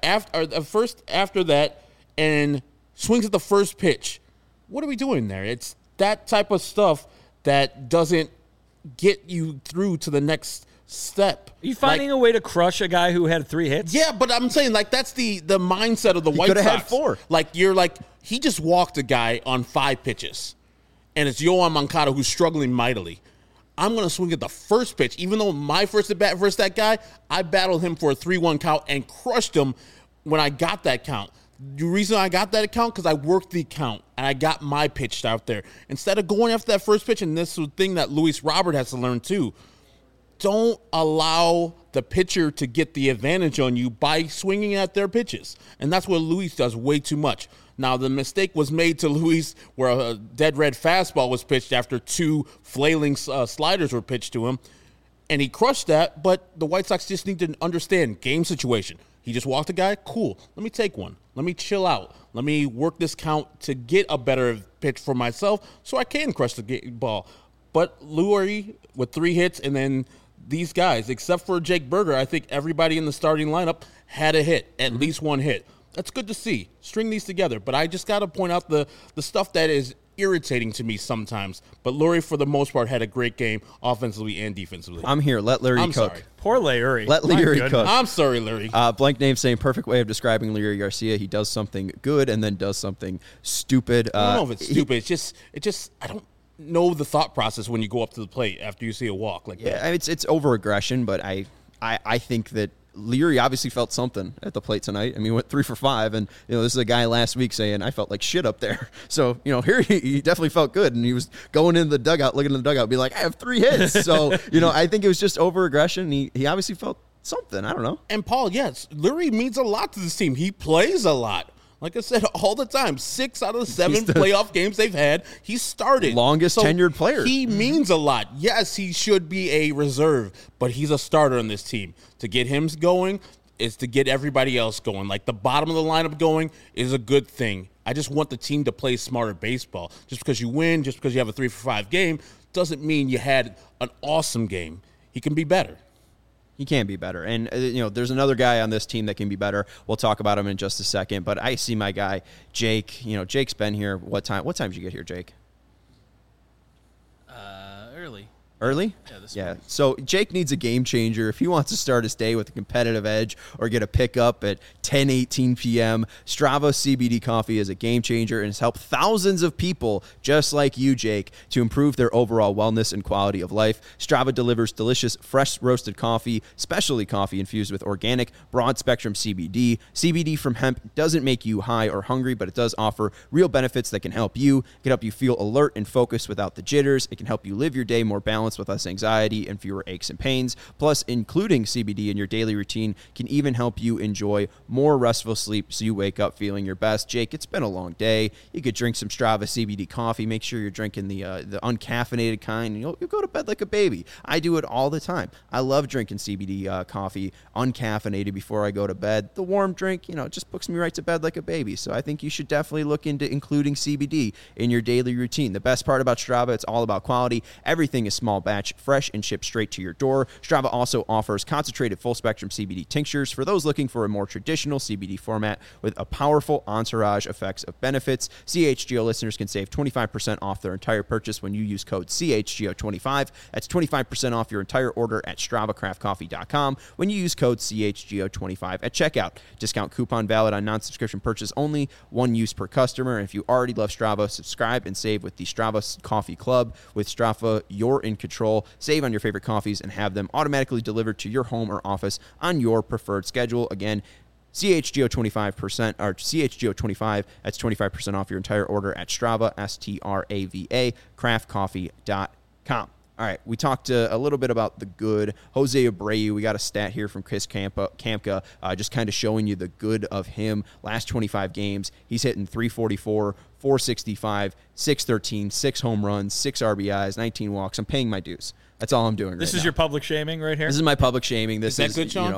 after that and swings at the first pitch. What are we doing there? It's that type of stuff that doesn't get you through to the next step. Are you finding a way to crush a guy who had 3 hits? Yeah, but I'm saying that's the mindset of the White Sox. He could have had 4. He just walked a guy on 5 pitches, and it's Yoan Moncada who's struggling mightily. I'm going to swing at the first pitch, even though my first at bat versus that guy, I battled him for a 3-1 count and crushed him when I got that count. The reason I got that account because I worked the count and I got my pitch out there. Instead of going after that first pitch, and this is the thing that Luis Robert has to learn too, don't allow the pitcher to get the advantage on you by swinging at their pitches. And that's what Luis does way too much. Now, the mistake was made to Luis where a dead red fastball was pitched after 2 flailing sliders were pitched to him, and he crushed that, but the White Sox just need to understand game situation. He just walked a guy, cool, let me take one. Let me chill out. Let me work this count to get a better pitch for myself so I can crush the ball. But Leury with 3 hits, and then these guys, except for Jake Burger, I think everybody in the starting lineup had a hit, at least 1 hit. That's good to see. String these together. But I just got to point out the stuff that is irritating to me sometimes. But Leury, for the most part, had a great game offensively and defensively. I'm here. Let Leury cook. Sorry. Poor Leury. Let Leury cook. I'm sorry, Leury. Blank name saying perfect way of describing Leury Garcia. He does something good and then does something stupid. I don't know if it's stupid. It just I don't know the thought process when you go up to the plate after you see a walk like that. Yeah, it's over aggression, but I think that Leary obviously felt something at the plate tonight. I mean, he went 3 for 5, and this is a guy last week saying I felt like shit up there. So here he definitely felt good, and he was going into the dugout, looking in the dugout, be like, I have 3 hits. So I think it was just over aggression. He obviously felt something. I don't know. And Paul, yes, Leary means a lot to this team. He plays a lot. Like I said, all the time, 6 out of the 7 playoff games they've had, he started. Longest tenured player. He means a lot. Yes, he should be a reserve, but he's a starter on this team. To get him going is to get everybody else going. Like the bottom of the lineup going is a good thing. I just want the team to play smarter baseball. Just because you win, just because you have a 3 for 5 game, doesn't mean you had an awesome game. He can be better. He can be better. And, there's another guy on this team that can be better. We'll talk about him in just a second. But I see my guy, Jake. Jake's been here. What time did you get here, Jake? Early. Early? Yeah. So Jake needs a game changer. If he wants to start his day with a competitive edge or get a pickup at 10:18 p.m., Strava CBD coffee is a game changer and has helped thousands of people just like you, Jake, to improve their overall wellness and quality of life. Strava delivers delicious, fresh roasted coffee, specialty coffee infused with organic, broad-spectrum CBD. CBD from hemp doesn't make you high or hungry, but it does offer real benefits that can help you. It can help you feel alert and focused without the jitters. It can help you live your day more balanced with less anxiety and fewer aches and pains. Plus, including CBD in your daily routine can even help you enjoy more restful sleep so you wake up feeling your best. Jake, it's been a long day. You could drink some Strava CBD coffee. Make sure you're drinking the uncaffeinated kind, and you'll go to bed like a baby. I do it all the time. I love drinking CBD coffee uncaffeinated before I go to bed. The warm drink, just puts me right to bed like a baby. So I think you should definitely look into including CBD in your daily routine. The best part about Strava, it's all about quality. Everything is small batch, fresh, and shipped straight to your door. Strava also offers concentrated full-spectrum CBD tinctures for those looking for a more traditional CBD format with a powerful entourage effects of benefits. CHGO listeners can save 25% off their entire purchase when you use code CHGO25. That's 25% off your entire order at StravaCraftCoffee.com when you use code CHGO25 at checkout. Discount coupon valid on non-subscription purchase only. 1 use per customer. And if you already love Strava, subscribe and save with the Strava Coffee Club. With Strava, you're in control. Save on your favorite coffees and have them automatically delivered to your home or office on your preferred schedule. Again, CHGO 25% or CHGO 25. That's 25% off your entire order at Strava, STRAVA, craftcoffee.com. All right, we talked a little bit about the good. Jose Abreu, we got a stat here from Chris Kamka, just kind of showing you the good of him. Last 25 games, he's hitting 344, 465, 613, 6 home runs, 6 RBIs, 19 walks. I'm paying my dues. That's all I'm doing right now. This is your public shaming right here? This is my public shaming. This is good, Sean?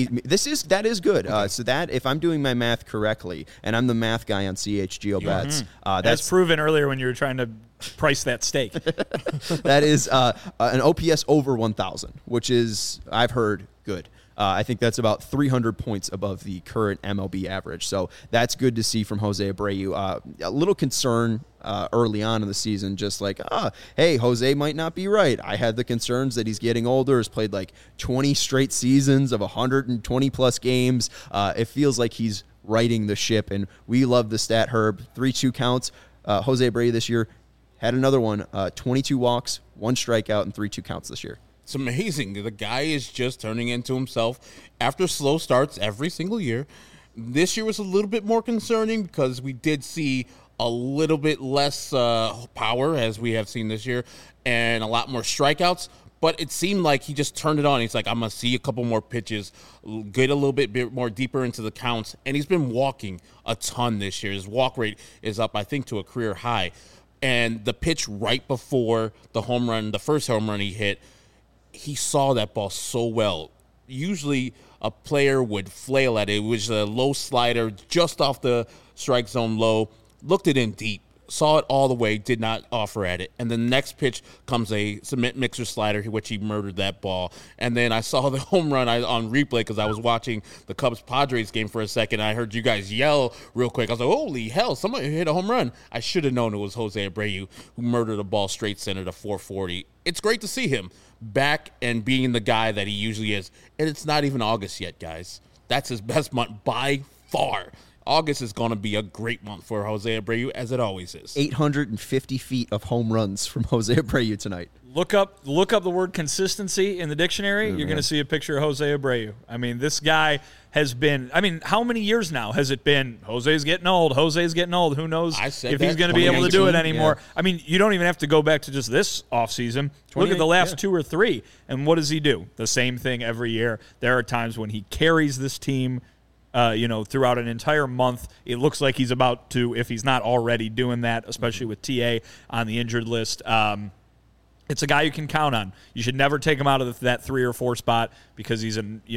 That is good. Okay. So that, if I'm doing my math correctly, and I'm the math guy on CHGO bets, that's proven earlier when you were trying to price that steak. That is an OPS over 1,000, which is, I've heard, good. I think that's about 300 points above the current MLB average. So that's good to see from Jose Abreu. A little concern early on in the season, just like, hey, Jose might not be right. I had the concerns that he's getting older, has played like 20 straight seasons of 120-plus games. It feels like he's righting the ship, and we love the stat, Herb. 3-2 counts. Jose Abreu this year had another one, 22 walks, 1 strikeout, and 3-2 counts this year. It's amazing. The guy is just turning into himself after slow starts every single year. This year was a little bit more concerning because we did see a little bit less power, as we have seen this year, and a lot more strikeouts. But it seemed like he just turned it on. He's like, I'm going to see a couple more pitches, get a little bit more deeper into the counts. And he's been walking a ton this year. His walk rate is up, I think, to a career high. And the pitch right before the home run, the first home run he hit, he saw that ball so well. Usually a player would flail at it. It was a low slider just off the strike zone low, looked it in deep, saw it all the way, did not offer at it. And the next pitch comes a cement mixer slider, which he murdered that ball. And then I saw the home run on replay because I was watching the Cubs-Padres game for a second. I heard you guys yell real quick. I was like, holy hell, somebody hit a home run. I should have known it was Jose Abreu who murdered a ball straight center to 440. It's great to see him back and being the guy that he usually is. And it's not even August yet, guys. That's his best month by far. August is going to be a great month for Jose Abreu, as it always is. 850 feet of home runs from Jose Abreu tonight. Look up the word consistency in the dictionary. You're going to see a picture of Jose Abreu. I mean, this guy has been, how many years now has it been? Jose's getting old. Who knows if he's going to be able to do it anymore? Yeah. I mean, you don't even have to go back to just this offseason. Look at the last 2 or 3, and what does he do? The same thing every year. There are times when he carries this team throughout an entire month. It looks like he's about to, if he's not already doing that, especially with TA on the injured list. It's a guy you can count on. You should never take him out of that 3 or 4 spot because he's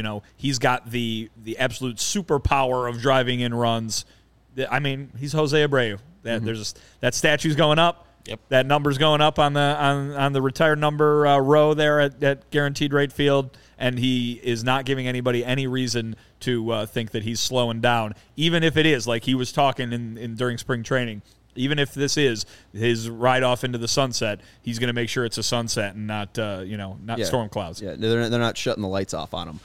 got the absolute superpower of driving in runs. I mean, he's Jose Abreu. That statue's going up. Yep. That number's going up on the retired number row there at Guaranteed Rate Field, and he is not giving anybody any reason to think that he's slowing down, even if it is like he was talking during spring training. Even if this is his ride off into the sunset, he's going to make sure it's a sunset and not storm clouds. Yeah, they're not shutting the lights off on him.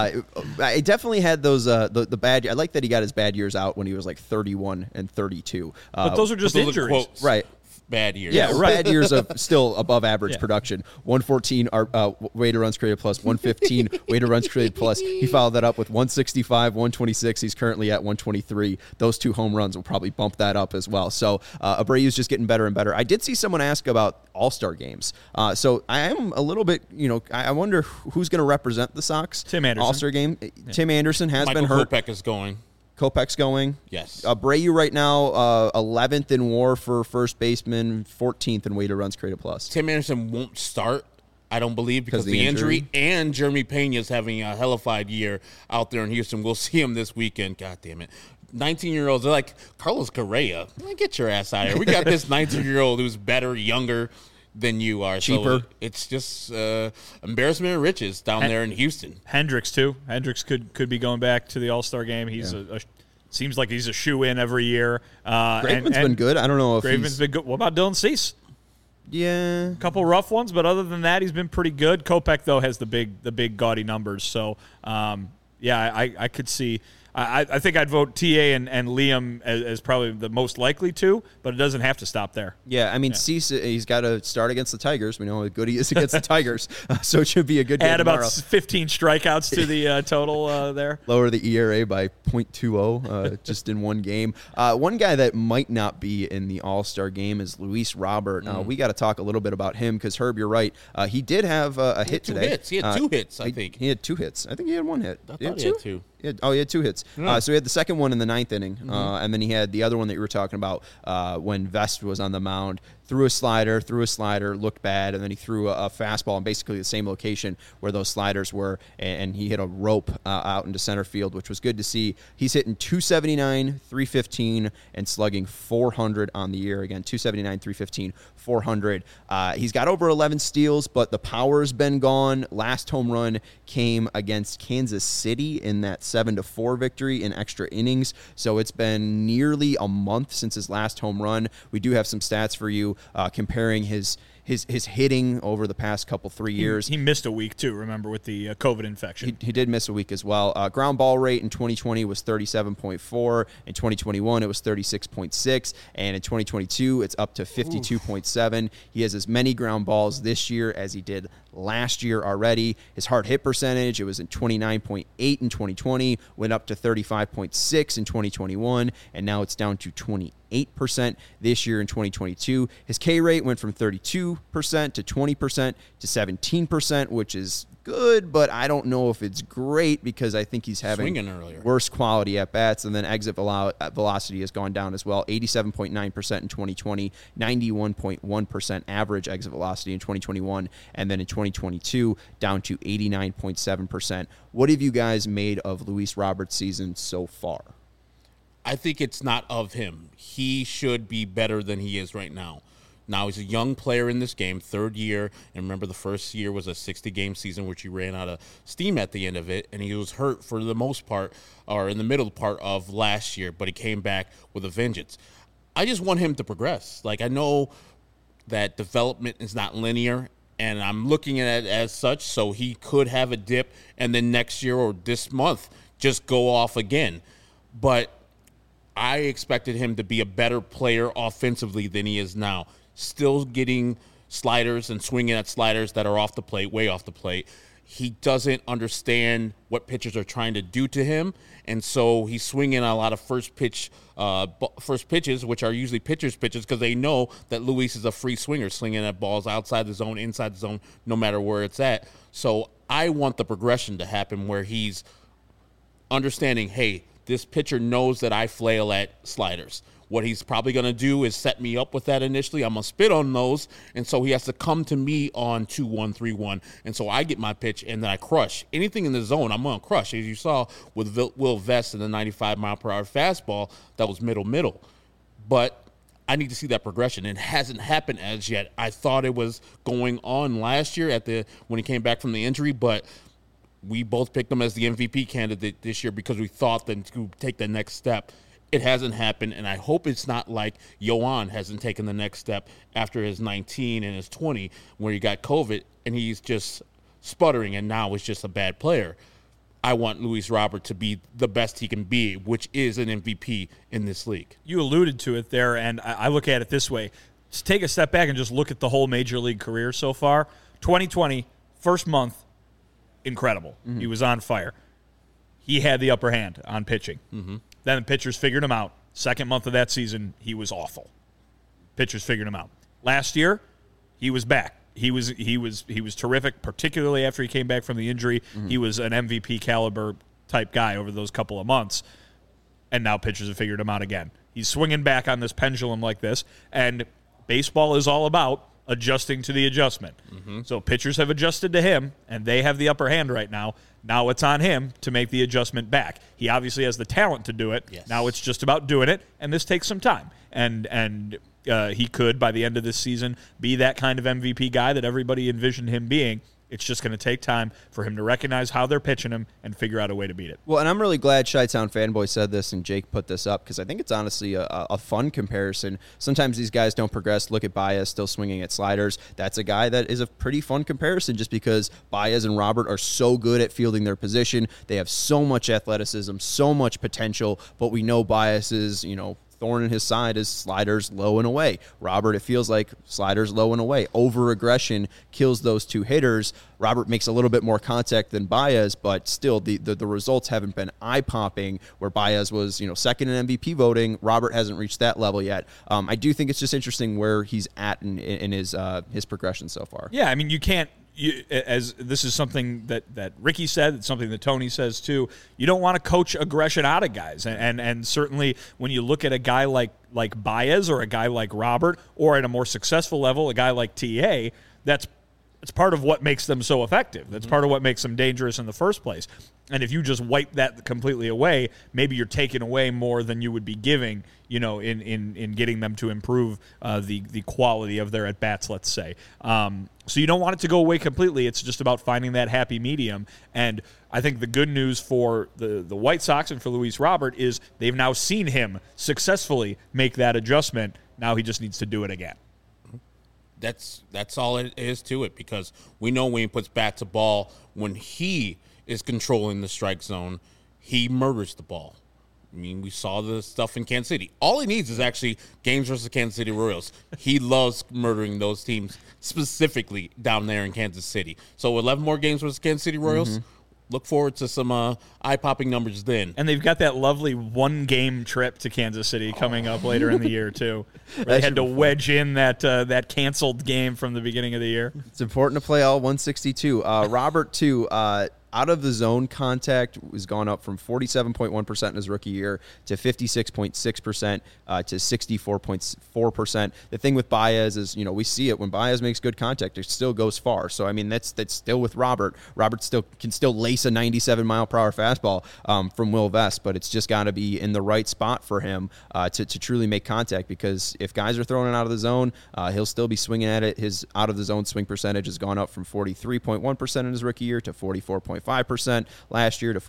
I definitely had those the bad. I like that he got his bad years out when he was like 31 and 32. But those are just injuries, right? Bad years. Yeah, right. Bad years of still above average production. 114 weighted runs created plus, 115 weighted runs created plus. He followed that up with 165, 126. He's currently at 123. Those 2 home runs will probably bump that up as well. So Abreu's just getting better and better. I did see someone ask about All-Star games. So I am a little bit, I wonder who's going to represent the Sox. Tim Anderson. All-Star game. Yeah. Tim Anderson has Michael been hurt. Kopech is going. Kopech's going. Yes. Abreu right now, 11th in WAR for first baseman, 14th in weighted runs created plus. Tim Anderson won't start, I don't believe, because of the injury. And Jeremy Pena's having a hellified year out there in Houston. We'll see him this weekend. God damn it. 19-year-olds, they're like, Carlos Correa, get your ass out of here. We got this 19-year-old who's better, younger than you are. Cheaper. So it's just embarrassment of riches down there in Houston. Hendricks, too. Hendricks could be going back to the All-Star game. He's seems like he's a shoe-in every year. Graveman's been good. I don't know if Graveman's been good. What about Dylan Cease? Yeah. A couple rough ones, but other than that, he's been pretty good. Kopech, though, has the big gaudy numbers. So, I could see – I think I'd vote TA and Liam as probably the most likely to, but it doesn't have to stop there. Yeah, I mean, Cease, he's got to start against the Tigers. We know how good he is against the Tigers, so it should be a good game Add tomorrow. about 15 strikeouts to the total there. Lower the ERA by 0.20 just in one game. One guy that might not be in the All-Star game is Luis Robert. We got to talk a little bit about him because, Herb, you're right. He did have a hit today. He had 2 hits, I think. He had 2 hits. I think he had 1 hit. I thought he had 2. He had 2 hits. So he had the second one in the 9th inning, and then he had the other one that you were talking about when Vest was on the mound. Threw a slider, looked bad, and then he threw a fastball in basically the same location where those sliders were, and he hit a rope out into center field, which was good to see. He's hitting 279, 315, and slugging 400 on the year. Again, 279, 315, 400. He's got over 11 steals, but the power's been gone. Last home run came against Kansas City in that 7-4 victory in extra innings, so it's been nearly a month since his last home run. We do have some stats for you. Comparing his hitting over the past 3 years. He missed a week, too, remember, with the COVID infection. He did miss a week as well. Ground ball rate in 2020 was 37.4. In 2021, it was 36.6. And in 2022, it's up to 52.7. He has as many ground balls this year as he did last year already. His hard hit percentage, it was in 29.8 in 2020, went up to 35.6 in 2021, and now it's down to 28% this year in 2022. His K rate went from 32% to 20% to 17%, which is good, but I don't know if it's great because I think he's having worse quality at bats. And then exit velocity has gone down as well. 87.9% in 2020, 91.1% average exit velocity in 2021, and then in 2022 down to 89.7%. What have you guys made of Luis Roberts' season so far? I think it's not of him. He should be better than he is right now. Now, he's a young player in this game, 3rd year. And remember, the first year was a 60-game season, which he ran out of steam at the end of it. And he was hurt for the most part, or in the middle part of last year. But he came back with a vengeance. I just want him to progress. Like, I know that development is not linear, and I'm looking at it as such. So he could have a dip, and then next year or this month just go off again. but I expected him to be a better player offensively than he is now. Still getting sliders and swinging at sliders that are off the plate, way off the plate. He doesn't understand what pitchers are trying to do to him, and so he's swinging a lot of first pitches, which are usually pitchers' pitches, because they know that Luis is a free swinger, slinging at balls outside the zone, inside the zone, no matter where it's at. So I want the progression to happen where he's understanding, hey, this pitcher knows that I flail at sliders. What he's probably going to do is set me up with that initially. I'm going to spit on those, and so he has to come to me on 2-1, 3-1, and so I get my pitch, and then I crush. Anything in the zone, I'm going to crush. As you saw with Will Vest in the 95-mile-per-hour fastball, that was middle. But I need to see that progression. It hasn't happened as yet. I thought it was going on last year when he came back from the injury, but we both picked him as the MVP candidate this year because we thought that to take the next step. It hasn't happened, and I hope it's not like Yoan hasn't taken the next step after his 19 and his 20 where he got COVID, and he's just sputtering and now is just a bad player. I want Luis Robert to be the best he can be, which is an MVP in this league. You alluded to it there, and I look at it this way. Just take a step back and just look at the whole Major League career so far. 2020, first month, incredible. Mm-hmm. He was on fire. He had the upper hand on pitching. Mm-hmm. Then the pitchers figured him out. Second month of that season, he was awful. Pitchers figured him out. Last year, he was back. He was terrific, particularly after he came back from the injury. Mm-hmm. He was an MVP caliber type guy over those couple of months. And now pitchers have figured him out again. He's swinging back on this pendulum like this, and baseball is all about adjusting to the adjustment. Mm-hmm. So pitchers have adjusted to him, and they have the upper hand right now. Now it's on him to make the adjustment back. He obviously has the talent to do it. Yes. Now it's just about doing it, and this takes some time. And he could, by the end of this season, be that kind of MVP guy that everybody envisioned him being. It's just going to take time for him to recognize how they're pitching him and figure out a way to beat it. Well, and I'm really glad Chi-Town Fanboy said this and Jake put this up because I think it's honestly a fun comparison. Sometimes these guys don't progress. Look at Baez still swinging at sliders. That's a guy that is a pretty fun comparison just because Baez and Robert are so good at fielding their position. They have so much athleticism, so much potential, but we know Baez is, thorn in his side is sliders low and away. Robert, it feels like sliders low and away. Over-aggression kills those two hitters. Robert makes a little bit more contact than Baez, but still the results haven't been eye-popping where Baez was second in MVP voting. Robert hasn't reached that level yet. I do think it's just interesting where he's at in his progression so far. Yeah, I mean, you can't. As this is something that Ricky said, it's something that Tony says too. You don't want to coach aggression out of guys, and certainly when you look at a guy like Baez or a guy like Robert, or at a more successful level, a guy like TA, that's part of what makes them so effective. That's part of what makes them dangerous in the first place. And if you just wipe that completely away, maybe you're taking away more than you would be giving, in getting them to improve the quality of their at-bats, let's say. So you don't want it to go away completely. It's just about finding that happy medium. And I think the good news for the White Sox and for Luis Robert is they've now seen him successfully make that adjustment. Now he just needs to do it again. That's all it is to it, because we know when he puts bat to ball, when he is controlling the strike zone, he murders the ball. I mean, we saw the stuff in Kansas City. All he needs is actually games versus Kansas City Royals. He loves murdering those teams, specifically down there in Kansas City. So 11 more games versus Kansas City Royals. Mm-hmm. Look forward to some eye-popping numbers then. And they've got that lovely one-game trip to Kansas City coming up later in the year, too. They had to wedge in that canceled game from the beginning of the year. It's important to play all 162. Robert, too, out of the zone contact was gone up from 47.1% in his rookie year to 56.6% to 64.4%. The thing with Baez is, we see it when Baez makes good contact, it still goes far. So I mean, that's still with Robert. Robert can still lace a 97-mile-per-hour fastball from Will Vest, but it's just got to be in the right spot for him to truly make contact. Because if guys are throwing it out of the zone, he'll still be swinging at it. His out of the zone swing percentage has gone up from 43.1% in his rookie year to 44.5% last year to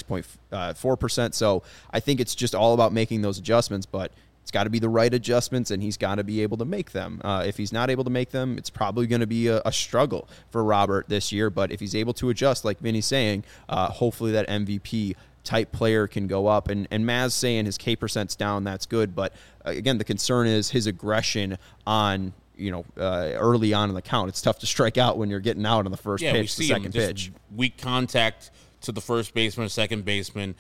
46.4%. So I think it's just all about making those adjustments, but it's got to be the right adjustments, and he's got to be able to make them. If he's not able to make them, it's probably going to be a struggle for Robert this year. But if he's able to adjust, like Vinny's saying, hopefully that MVP type player can go up. And Maz saying his K percent's down, that's good. But again, the concern is his aggression on, early on in the count. It's tough to strike out when you're getting out on the first pitch, the second pitch. Weak contact to the first baseman, second baseman,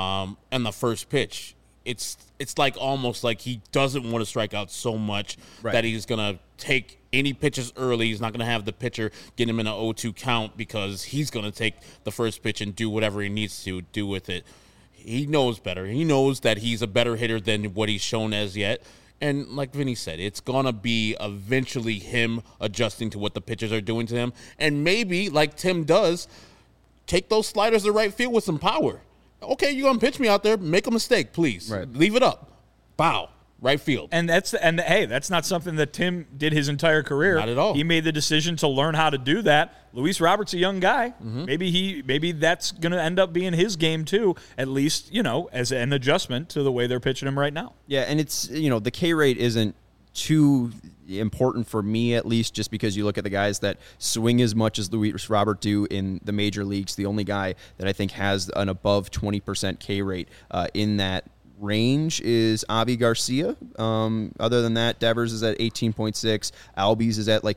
and the first pitch. It's like almost like he doesn't want to strike out so much that he's going to take any pitches early. He's not going to have the pitcher get him in an 0-2 count because he's going to take the first pitch and do whatever he needs to do with it. He knows better. He knows that he's a better hitter than what he's shown as yet. And like Vinny said, it's going to be eventually him adjusting to what the pitchers are doing to him. And maybe, like Tim does, take those sliders to right field with some power. Okay, you're going to pitch me out there. Make a mistake, please. Right. Leave it up. Bow. Right field. And hey, that's not something that Tim did his entire career. Not at all. He made the decision to learn how to do that. Luis Robert's a young guy. Mm-hmm. Maybe that's going to end up being his game too, at least, as an adjustment to the way they're pitching him right now. Yeah, and it's, the K rate isn't too important for me, at least, just because you look at the guys that swing as much as Luis Robert do in the major leagues. The only guy that I think has an above 20% K rate in that range is Avi Garcia. Other than that, Devers is at 18.6. Albies is at like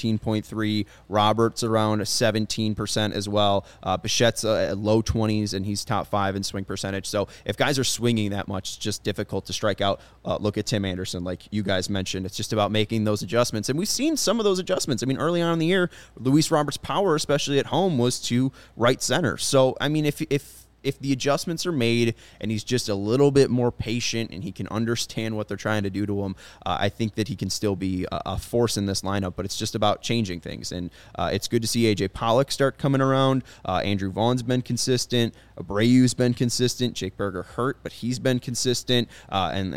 17.3. Roberts around 17% as well. Bichette's at low 20s, and he's top 5 in swing percentage. So if guys are swinging that much, it's just difficult to strike out. Look at Tim Anderson, like you guys mentioned. It's just about making those adjustments, and we've seen some of those adjustments. I mean, early on in the year, Luis Roberts' power, especially at home, was to right center. So, I mean, if the adjustments are made and he's just a little bit more patient and he can understand what they're trying to do to him, I think that he can still be a force in this lineup, but it's just about changing things. And it's good to see A.J. Pollock start coming around. Andrew Vaughn's been consistent. Abreu's been consistent. Jake Berger hurt, but he's been consistent. And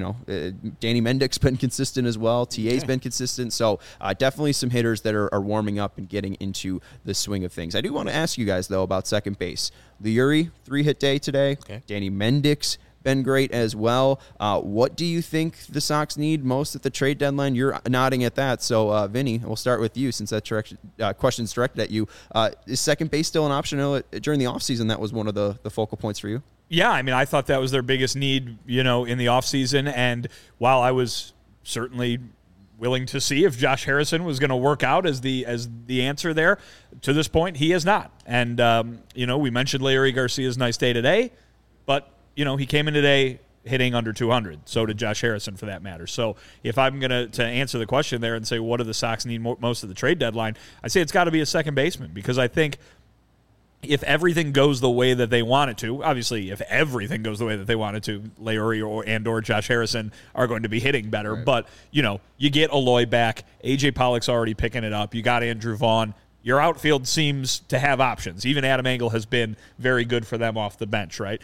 Danny Mendick's been consistent as well. TA's been consistent. So definitely some hitters that are warming up and getting into the swing of things. I do want to ask you guys, though, about second base. Leury, 3-hit day today. Okay. Danny Mendick's been great as well. What do you think the Sox need most at the trade deadline? You're nodding at that. So, Vinny, we'll start with you since that question's directed at you. Is second base still an option? During the offseason, that was one of the focal points for you. Yeah, I mean, I thought that was their biggest need, in the offseason. And while I was certainly willing to see if Josh Harrison was going to work out as the answer there, to this point, he has not. And, we mentioned Leury Garcia's nice day today, but, he came in today hitting under 200. So did Josh Harrison, for that matter. So if I'm going to answer the question there and say, what do the Sox need most of the trade deadline, I say it's got to be a second baseman, because I think if everything goes the way that they want it to, obviously if everything goes the way that they want it to, Leury or Josh Harrison are going to be hitting better. Right. But, you get Eloy back. A.J. Pollock's already picking it up. You got Andrew Vaughn. Your outfield seems to have options. Even Adam Engel has been very good for them off the bench, right?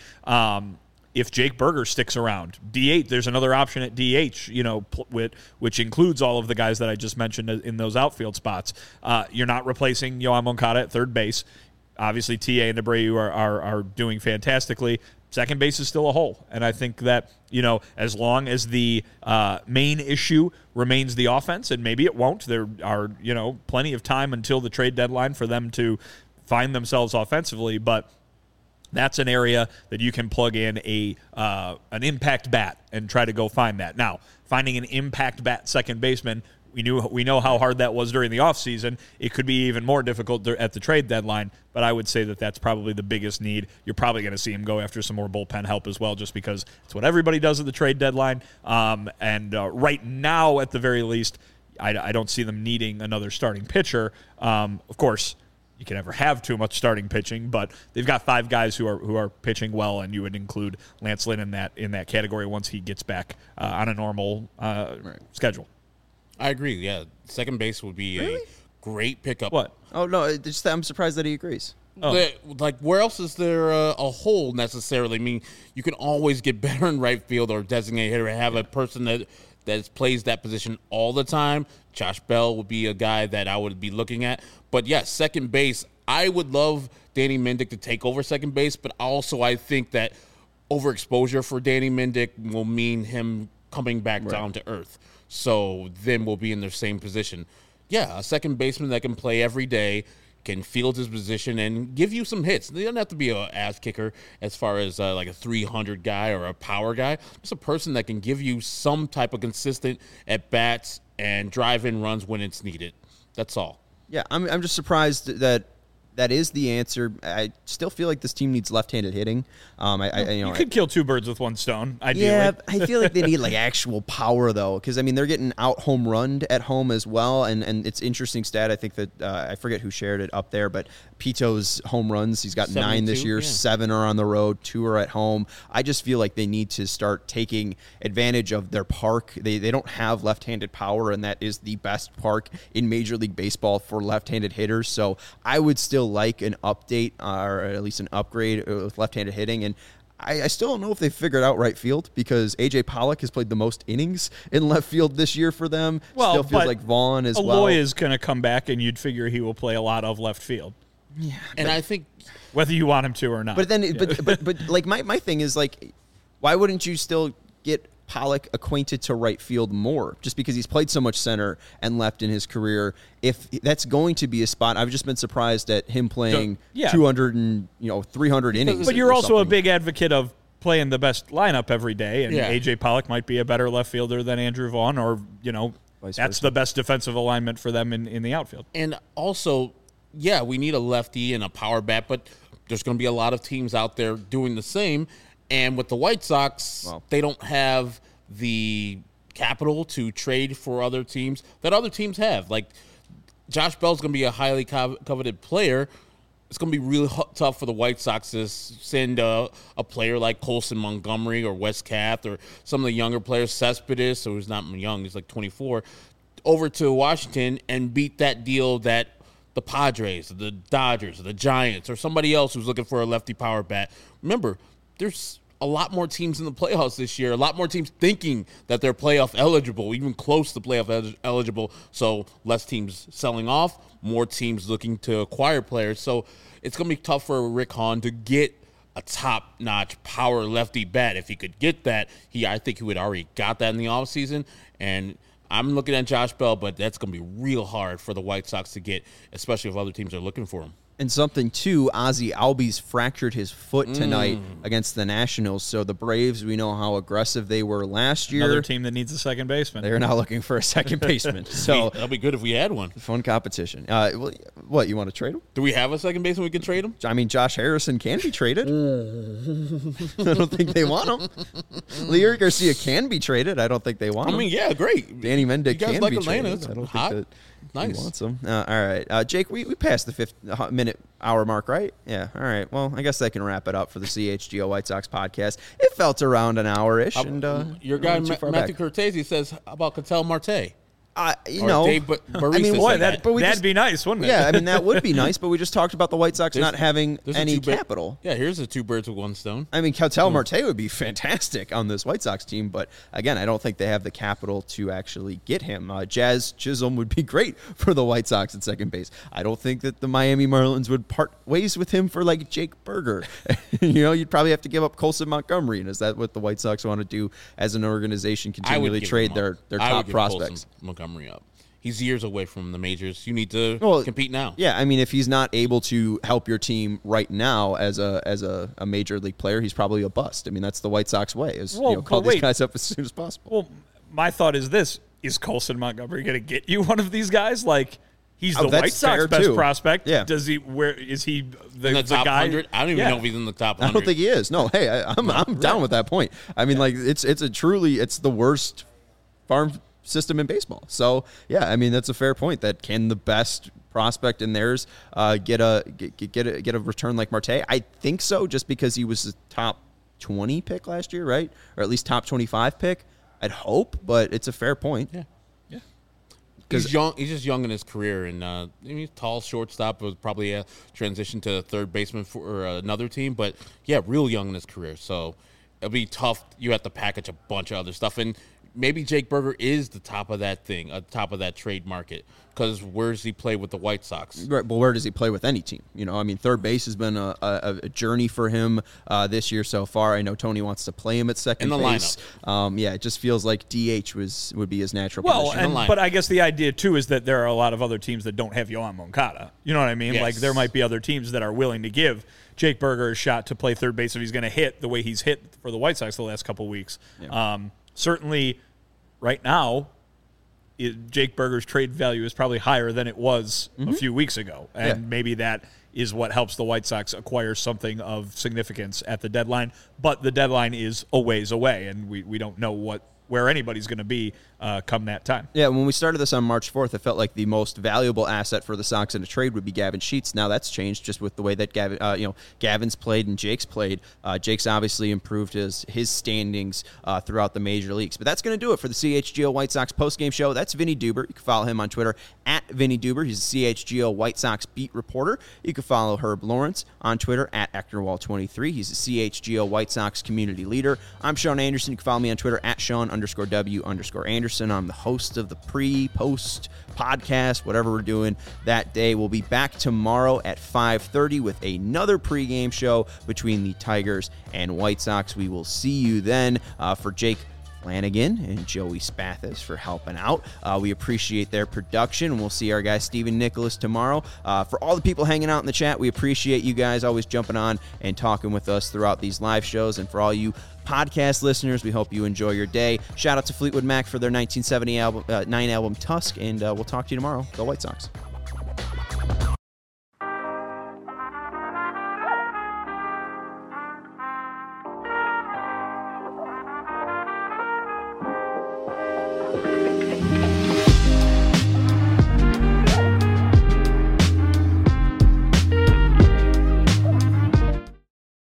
If Jake Berger sticks around, DH, there's another option at DH, which includes all of the guys that I just mentioned in those outfield spots. You're not replacing Yoan Moncada at third base. Obviously, TA and Abreu are doing fantastically. Second base is still a hole. And I think that, as long as the main issue remains the offense, and maybe it won't, there are, plenty of time until the trade deadline for them to find themselves offensively. But that's an area that you can plug in an impact bat and try to go find that. Now, finding an impact bat second baseman, we know how hard that was during the offseason. It could be even more difficult at the trade deadline, but I would say that that's probably the biggest need. You're probably going to see him go after some more bullpen help as well, just because it's what everybody does at the trade deadline. Right now, at the very least, I don't see them needing another starting pitcher. Of course, you can never have too much starting pitching, but they've got 5 guys who are pitching well, and you would include Lance Lynn in that category once he gets back on a normal schedule. I agree. Yeah, second base would be a great pickup. What? Oh no, I'm surprised that he agrees. Oh. Where else is there a hole necessarily? I mean, you can always get better in right field or designate hitter and have a person that plays that position all the time. Josh Bell would be a guy that I would be looking at. But yes, second base, I would love Danny Mendick to take over second base, but also I think that overexposure for Danny Mendick will mean him coming back down to earth. So then we'll be in the same position. Yeah, a second baseman that can play every day. can field his position and give you some hits. They don't have to be an ass kicker as far as like a 300 guy or a power guy. Just a person that can give you some type of consistent at-bats and drive-in runs when it's needed. That's all. Yeah, I'm just surprised that is the answer. I still feel like this team needs left-handed hitting. You could kill two birds with one stone, ideally. Yeah, I feel like they need like actual power though, because I mean they're getting out home runned at home as well, and it's interesting stat. I think that I forget who shared it up there, but Pito's home runs, he's got 9 this year. Yeah. 7 are on the road, 2 are at home. I just feel like they need to start taking advantage of their park. They don't have left-handed power, and that is the best park in Major League Baseball for left-handed hitters. So I would still like an update or at least an upgrade with left-handed hitting. And I still don't know if they figured out right field, because A.J. Pollock has played the most innings in left field this year for them. Well, still feels like Vaughn as well. Eloy is going to come back, and you'd figure he will play a lot of left field. Yeah, and I think whether you want him to or not. But then, but like my thing is like, why wouldn't you still get Pollock acquainted to right field more, just because he's played so much center and left in his career? If that's going to be a spot, I've just been surprised at him playing 200 and 300 innings. But you're also a big advocate of playing the best lineup every day, and A.J. Pollock might be a better left fielder than Andrew Vaughn, or Vice that's versa. the best defensive alignment for them in the outfield. And also, yeah, we need a lefty and a power bat, but there's going to be a lot of teams out there doing the same. And with the White Sox, they don't have the capital to trade for other teams that other teams have. Like, Josh Bell's going to be a highly coveted player. It's going to be really tough for the White Sox to send a player like Colson Montgomery or Wes Kath or some of the younger players, Cespedes, who's not young, he's like 24, over to Washington and beat that deal that the Padres, the Dodgers, the Giants, or somebody else who's looking for a lefty power bat. Remember, there's a lot more teams in the playoffs this year, a lot more teams thinking that they're playoff eligible, even close to playoff eligible. So less teams selling off, more teams looking to acquire players. So it's going to be tough for Rick Hahn to get a top-notch power lefty bat. If he could get that, I think he would already got that in the offseason. And I'm looking at Josh Bell, but that's going to be real hard for the White Sox to get, especially if other teams are looking for him. And something, too, Ozzie Albies fractured his foot tonight against the Nationals. So the Braves, we know how aggressive they were last year. Another team that needs a second baseman. They're now looking for a second baseman. So that'll be good if we had one. Fun competition. What, you want to trade him? Do we have a second baseman we can trade him? I mean, Josh Harrison can be traded. I don't think they want him. Leury Garcia can be traded. I don't think they want him. I mean, yeah, great. Danny Mendick can like be Atlanta. traded. I don't hot. think that nice. he wants him. All right. Jake, we passed the 5-minute hour mark, right? Yeah. All right. Well, I guess that can wrap it up for the CHGO White Sox podcast. It felt around an hour-ish. Your guy, Matthew Cortese, says, how about Ketel Marte? Dave that'd be nice, wouldn't it? Yeah, I mean, that would be nice, but we just talked about the White Sox not having any capital. Yeah, here's the 2 birds with 1 stone. I mean, Ketel Marte would be fantastic on this White Sox team, but again, I don't think they have the capital to actually get him. Jazz Chisholm would be great for the White Sox at second base. I don't think that the Miami Marlins would part ways with him for like Jake Berger. You'd probably have to give up Colson Montgomery, and is that what the White Sox want to do as an organization? Continually trade their top prospects. Montgomery up. He's years away from the majors. You need to compete now. Yeah, I mean, if he's not able to help your team right now as a major league player, he's probably a bust. I mean, that's the White Sox way: call these guys up as soon as possible. Well, my thought is this: is Colson Montgomery going to get you one of these guys? Like, he's the White Sox best prospect. Yeah. Does he? Where is he? The top guy? 100? I don't even know if he's in the top 100. I don't think he is. No. Hey, I'm down with that point. I mean, like it's the worst farm system in baseball. So yeah, I mean that's a fair point. That can the best prospect in theirs get a return like Marte? I think so, just because he was a top 20 pick last year, right? Or at least top 25 pick. I'd hope, but it's a fair point. Yeah. He's young. He's just young in his career, and he's tall shortstop. Was probably a transition to third baseman for another team, but yeah, real young in his career. So it'll be tough. You have to package a bunch of other stuff, and maybe Jake Burger is the top of that thing, top of that trade market. Because where does he play with the White Sox? Right, but where does he play with any team? Third base has been a journey for him this year so far. I know Tony wants to play him at second base. Lineup. It just feels like DH would be his natural position. But I guess the idea, too, is that there are a lot of other teams that don't have Yoán Moncada. You know what I mean? Yes. Like, there might be other teams that are willing to give Jake Burger a shot to play third base if he's going to hit the way he's hit for the White Sox the last couple of weeks. Yeah. Certainly, right now, Jake Burger's trade value is probably higher than it was a few weeks ago. And maybe that is what helps the White Sox acquire something of significance at the deadline. But the deadline is a ways away, and we don't know where anybody's going to be come that time. Yeah, when we started this on March 4th, it felt like the most valuable asset for the Sox in a trade would be Gavin Sheets. Now that's changed just with the way that Gavin's played and Jake's played. Jake's obviously improved his standings throughout the major leagues. But that's going to do it for the CHGO White Sox postgame show. That's Vinny Duber. You can follow him on Twitter at Vinny Duber. He's a CHGO White Sox beat reporter. You can follow Herb Lawrence on Twitter at Ectorwall23. He's a CHGO White Sox community leader. I'm Sean Anderson. You can follow me on Twitter at Sean_W_Anderson. I'm the host of the pre-post podcast, whatever we're doing that day. We'll be back tomorrow at 5:30 with another pregame show between the Tigers and White Sox. We will see you then. For Jake Flanagan and Joey Spathis for helping out. We appreciate their production. We'll see our guy Stephen Nicholas tomorrow. For all the people hanging out in the chat, we appreciate you guys always jumping on and talking with us throughout these live shows. And for all you podcast listeners, we hope you enjoy your day. Shout out to Fleetwood Mac for their 1979 album Tusk, and we'll talk to you tomorrow. Go White Sox.